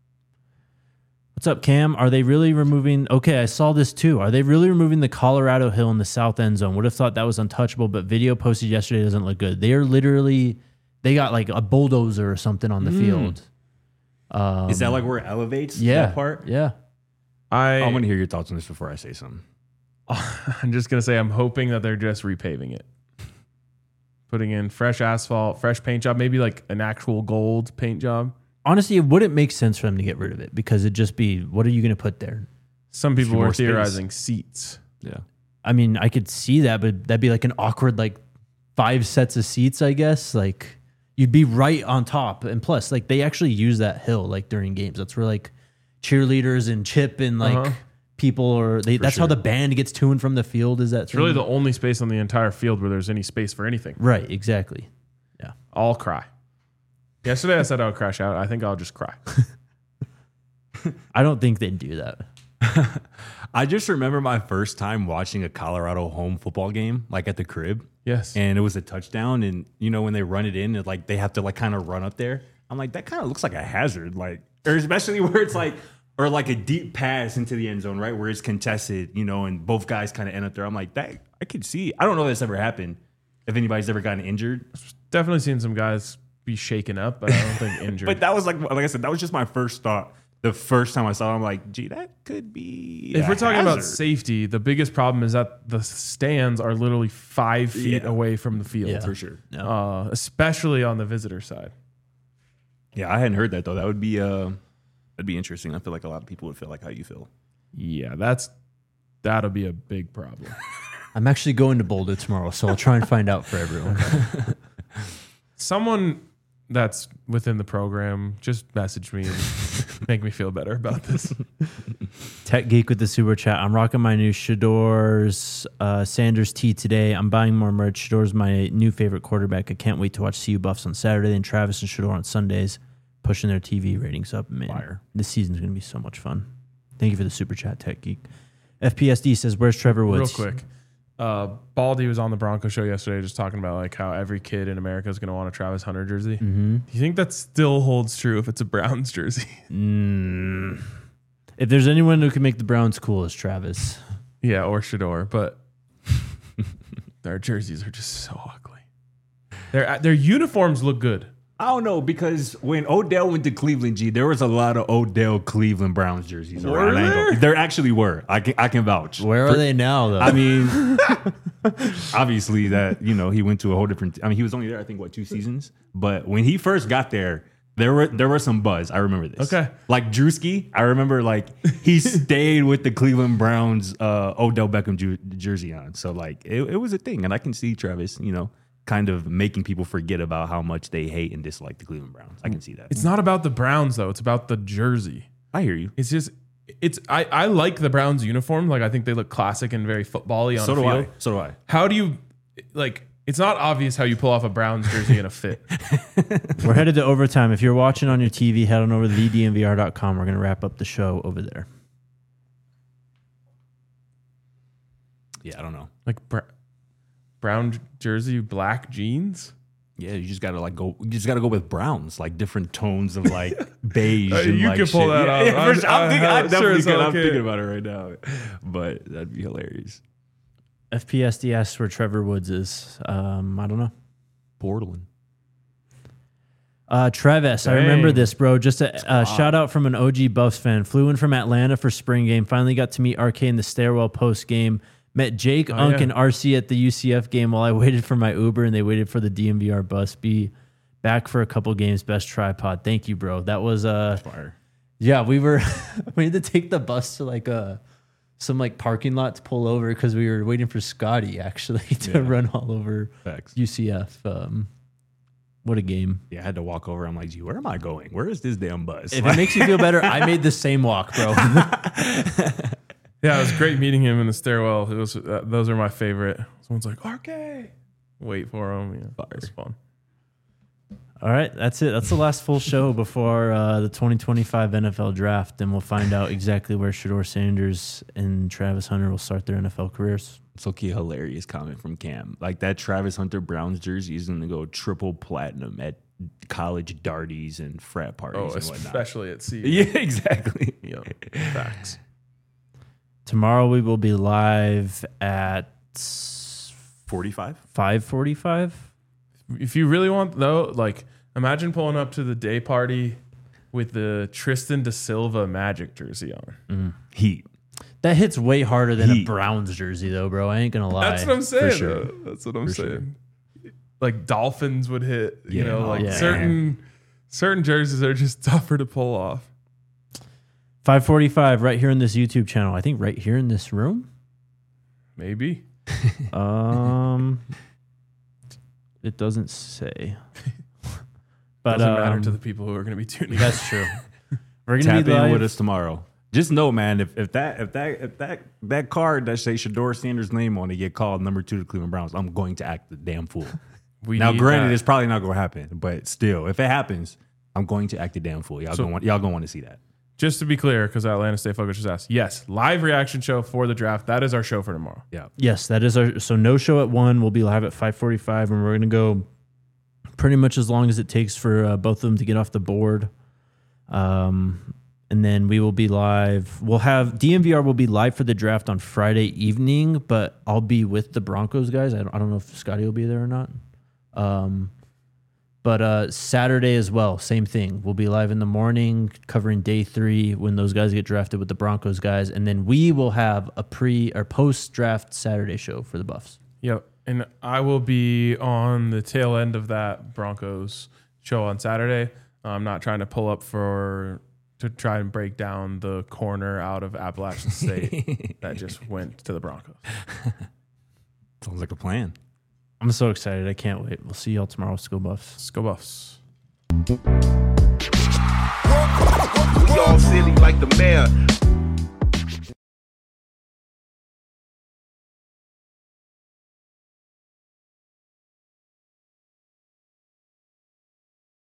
Speaker 2: What's up, Cam? Are they really removing? Okay, I saw this too. Are they really removing the Colorado Hill in the south end zone? Would have thought that was untouchable, but video posted yesterday doesn't look good. They are literally, they got like a bulldozer or something on the
Speaker 1: Mm.
Speaker 2: field. Um,
Speaker 3: Is that like where it elevates
Speaker 2: yeah,
Speaker 3: that part?
Speaker 2: Yeah.
Speaker 1: I,
Speaker 3: I want to hear your thoughts on this before I say something.
Speaker 1: I'm just gonna say I'm hoping that they're just repaving it, putting in fresh asphalt, fresh paint job, maybe like an actual gold paint job.
Speaker 2: Honestly, it wouldn't make sense for them to get rid of it because it'd just be, what are you going to put there?
Speaker 1: Some people
Speaker 3: few
Speaker 1: were
Speaker 3: more space.
Speaker 1: theorizing seats.
Speaker 3: Yeah.
Speaker 2: I mean, I could see that, but that'd be like an awkward, like five sets of seats, I guess. Like you'd be right on top. And plus, like they actually use that hill like during games. That's where like cheerleaders and Chip and like
Speaker 1: Uh-huh.
Speaker 2: people or they, that's how
Speaker 3: sure.
Speaker 2: the band gets to and from the field. Is that
Speaker 1: It's really the only space on the entire field where there's any space for anything.
Speaker 2: right? Exactly. Yeah.
Speaker 1: I'll cry. Yesterday I said I would crash out. I think I'll just cry.
Speaker 2: I don't think they'd do that.
Speaker 3: I just remember my first time watching a Colorado home football game, like at the crib,
Speaker 1: Yes.
Speaker 3: and it was a touchdown. And you know when they run it in, it, like they have to like kind of run up there. I'm like, that kind of looks like a hazard, like or especially where it's like or like a deep pass into the end zone, right, where it's contested, you know, and both guys kind of end up there. I'm like, that I could see. I don't know if that's ever happened. If anybody's ever gotten injured,
Speaker 1: Definitely seen some guys be shaken up, but I don't think injured.
Speaker 3: but that was like, like I said, that was just my first thought. The first time I saw it, I'm like, gee, that could be.
Speaker 1: if
Speaker 3: a
Speaker 1: we're talking about
Speaker 3: hazard.
Speaker 1: safety, the biggest problem is that the stands are literally five feet
Speaker 3: Yeah.
Speaker 1: away from the field,
Speaker 2: Yeah.
Speaker 3: for sure.
Speaker 2: No.
Speaker 1: uh, especially on the visitor side.
Speaker 3: Yeah, I hadn't heard that though. That would be uh, that'd be interesting. I feel like a lot of people would feel like how you feel.
Speaker 1: Yeah, that's that'll be a big problem.
Speaker 2: I'm actually going to Boulder tomorrow, so I'll try and find out for everyone.
Speaker 1: Someone that's within the program just message me and make me feel better about this.
Speaker 2: Tech Geek with the super chat. I'm rocking my new Shador's uh, Sanders tee today. I'm buying more merch. Shador's my new favorite quarterback. I can't wait to watch C U Buffs on Saturday and Travis and Shador on Sundays, pushing their T V ratings up. Man,
Speaker 3: Fire.
Speaker 2: this season's going to be so much fun. Thank you for the super chat, Tech Geek. F P S D says, where's Trevor Woods?
Speaker 1: Real quick. Uh, Baldy was on the Bronco show yesterday just talking about like how every kid in America is going to want a Travis Hunter jersey.
Speaker 2: Mm-hmm.
Speaker 1: Do you think that still holds true if it's a Browns jersey?
Speaker 2: Mm. If there's anyone who can make the Browns cool, it's Travis.
Speaker 1: Yeah, or Shador, but their jerseys are just so ugly. Their their uniforms look good.
Speaker 3: I don't know because when Odell went to Cleveland, G, there was a lot of Odell Cleveland Browns jerseys
Speaker 1: Were
Speaker 3: around. I ain't
Speaker 1: there?
Speaker 3: gonna- There actually were. I can I can vouch.
Speaker 2: Where are they now, though?
Speaker 3: I mean, obviously that you know he went to a whole different. I mean, he was only there I think what two seasons, but when he first got there, there were there was some buzz. I remember this.
Speaker 1: Okay.
Speaker 3: like Drewski, I remember like he stayed with the Cleveland Browns uh, Odell Beckham ju- jersey on. So like it, it was a thing, and I can see Travis, you know, kind of making people forget about how much they hate and dislike the Cleveland Browns. I can see that.
Speaker 1: It's not about the Browns though; it's about the jersey.
Speaker 3: I hear you.
Speaker 1: It's just it's I, I like the Browns uniform. Like I think they look classic and very football-y on
Speaker 3: So
Speaker 1: the
Speaker 3: do
Speaker 1: field.
Speaker 3: I. So do I.
Speaker 1: How do you like? It's not obvious how you pull off a Browns jersey in a fit.
Speaker 2: We're headed to overtime. If you're watching on your T V, head on over to the D N V R dot com. We're going to wrap up the show over there.
Speaker 3: Yeah, I don't know.
Speaker 1: Like br- brown jersey, black jeans.
Speaker 3: Yeah, you just gotta like go. You just gotta go with browns, like different tones of like beige.
Speaker 1: Uh,
Speaker 3: and,
Speaker 1: you
Speaker 3: like,
Speaker 1: can pull
Speaker 3: shit.
Speaker 1: that
Speaker 3: Yeah,
Speaker 1: off.
Speaker 3: yeah, for
Speaker 1: I'm-
Speaker 3: sure. I'm,
Speaker 1: I-
Speaker 3: thinking,
Speaker 1: I-
Speaker 3: I definitely
Speaker 1: sure as
Speaker 3: can.
Speaker 1: hell
Speaker 3: I'm
Speaker 1: can.
Speaker 3: thinking about it right now, but that'd be hilarious.
Speaker 2: F P S D asks where Trevor Woods is. Um, I don't know.
Speaker 3: Portland.
Speaker 2: Uh, Travis, I remember
Speaker 1: Dang.
Speaker 2: this, bro. Just a uh, shout out from an O G Buffs fan. Flew in from Atlanta for spring game. Finally got to meet R K in the stairwell post game. Met Jake,
Speaker 1: Oh,
Speaker 2: Unk,
Speaker 1: yeah.
Speaker 2: and R C at the U C F game while I waited for my Uber, and they waited for the D M V R bus. Be back for a couple games. Best tripod. Thank you, bro. That was uh,
Speaker 3: Fire.
Speaker 2: yeah. We were we had to take the bus to like a some like parking lot to pull over because we were waiting for Scotty actually to
Speaker 3: Yeah.
Speaker 2: run all over
Speaker 3: Facts.
Speaker 2: U C F. Um, what a game.
Speaker 3: Yeah, I had to walk over. I'm like, gee, where am I going? Where is this damn bus?
Speaker 2: If it makes you feel better, I made the same walk, bro.
Speaker 1: Yeah, it was great meeting him in the stairwell. It was uh, those are my favorite. Someone's like R K, wait for him. Yeah, it was fun.
Speaker 2: All right, that's it. That's the last full show before uh, the twenty twenty-five N F L draft, and we'll find out exactly where Shedeur Sanders and Travis Hunter will start their N F L careers.
Speaker 3: So key hilarious comment from Cam. Like that Travis Hunter Browns jersey is going to go triple platinum at college darties and frat parties
Speaker 1: Oh,
Speaker 3: and whatnot.
Speaker 1: especially at sea.
Speaker 3: Yeah, exactly.
Speaker 1: Yeah, facts.
Speaker 2: Tomorrow we will be live at
Speaker 3: forty-five?
Speaker 2: five forty-five.
Speaker 1: If you really want though, like imagine pulling up to the day party with the Tristan Da Silva Magic jersey on.
Speaker 3: Heat.
Speaker 2: That hits way harder than
Speaker 3: Heat.
Speaker 2: a Browns jersey, though, bro. I ain't gonna lie.
Speaker 1: That's what I'm saying.
Speaker 2: sure.
Speaker 1: though. That's what I'm
Speaker 3: For
Speaker 1: saying. Like Dolphins would hit. You
Speaker 3: Yeah.
Speaker 1: know, like
Speaker 2: Yeah.
Speaker 1: certain certain jerseys are just tougher to pull off.
Speaker 2: five forty-five right here in this YouTube channel. I think right here in this room.
Speaker 1: Maybe.
Speaker 2: Um, it doesn't say. But
Speaker 1: Doesn't matter
Speaker 2: um,
Speaker 1: to the people who are going to be tuning. in.
Speaker 2: That's true. We're gonna
Speaker 3: Tap
Speaker 2: be
Speaker 3: in
Speaker 2: live.
Speaker 3: with us tomorrow. Just know, man, if, if that if that if that that card that say Shedeur Sanders' name on it get called number two to the Cleveland Browns, I'm going to act the damn fool.
Speaker 1: We
Speaker 3: Now,
Speaker 1: need
Speaker 3: granted,
Speaker 1: that.
Speaker 3: it's probably not going to happen, but still, if it happens, I'm going to act the damn fool. Y'all
Speaker 1: So-
Speaker 3: gonna want y'all gonna want to see that.
Speaker 1: Just to be clear, because Atlanta State Focus just asked, yes, live reaction show for the draft. That is our show for tomorrow.
Speaker 3: Yeah.
Speaker 2: Yes, that is our. So no show at one. We'll be live at five forty-five, and we're gonna go pretty much as long as it takes for uh, both of them to get off the board. Um, and then we will be live. We'll have D M V R will be live for the draft on Friday evening, but I'll be with the Broncos guys. I don't, I don't know if Scotty will be there or not. Um, but uh, Saturday as well, same thing. We'll be live in the morning covering day three when those guys get drafted with the Broncos guys, and then we will have a pre or post draft Saturday show for the Buffs.
Speaker 1: Yep. And I will be on the tail end of that Broncos show on Saturday. I'm not trying to pull up for to try and break down the corner out of Appalachian State that just went to the Broncos.
Speaker 3: Sounds like a plan.
Speaker 2: I'm so excited. I can't wait. We'll see y'all tomorrow. Let's go Buffs.
Speaker 1: Let's go Buffs.
Speaker 4: We all silly like the mayor.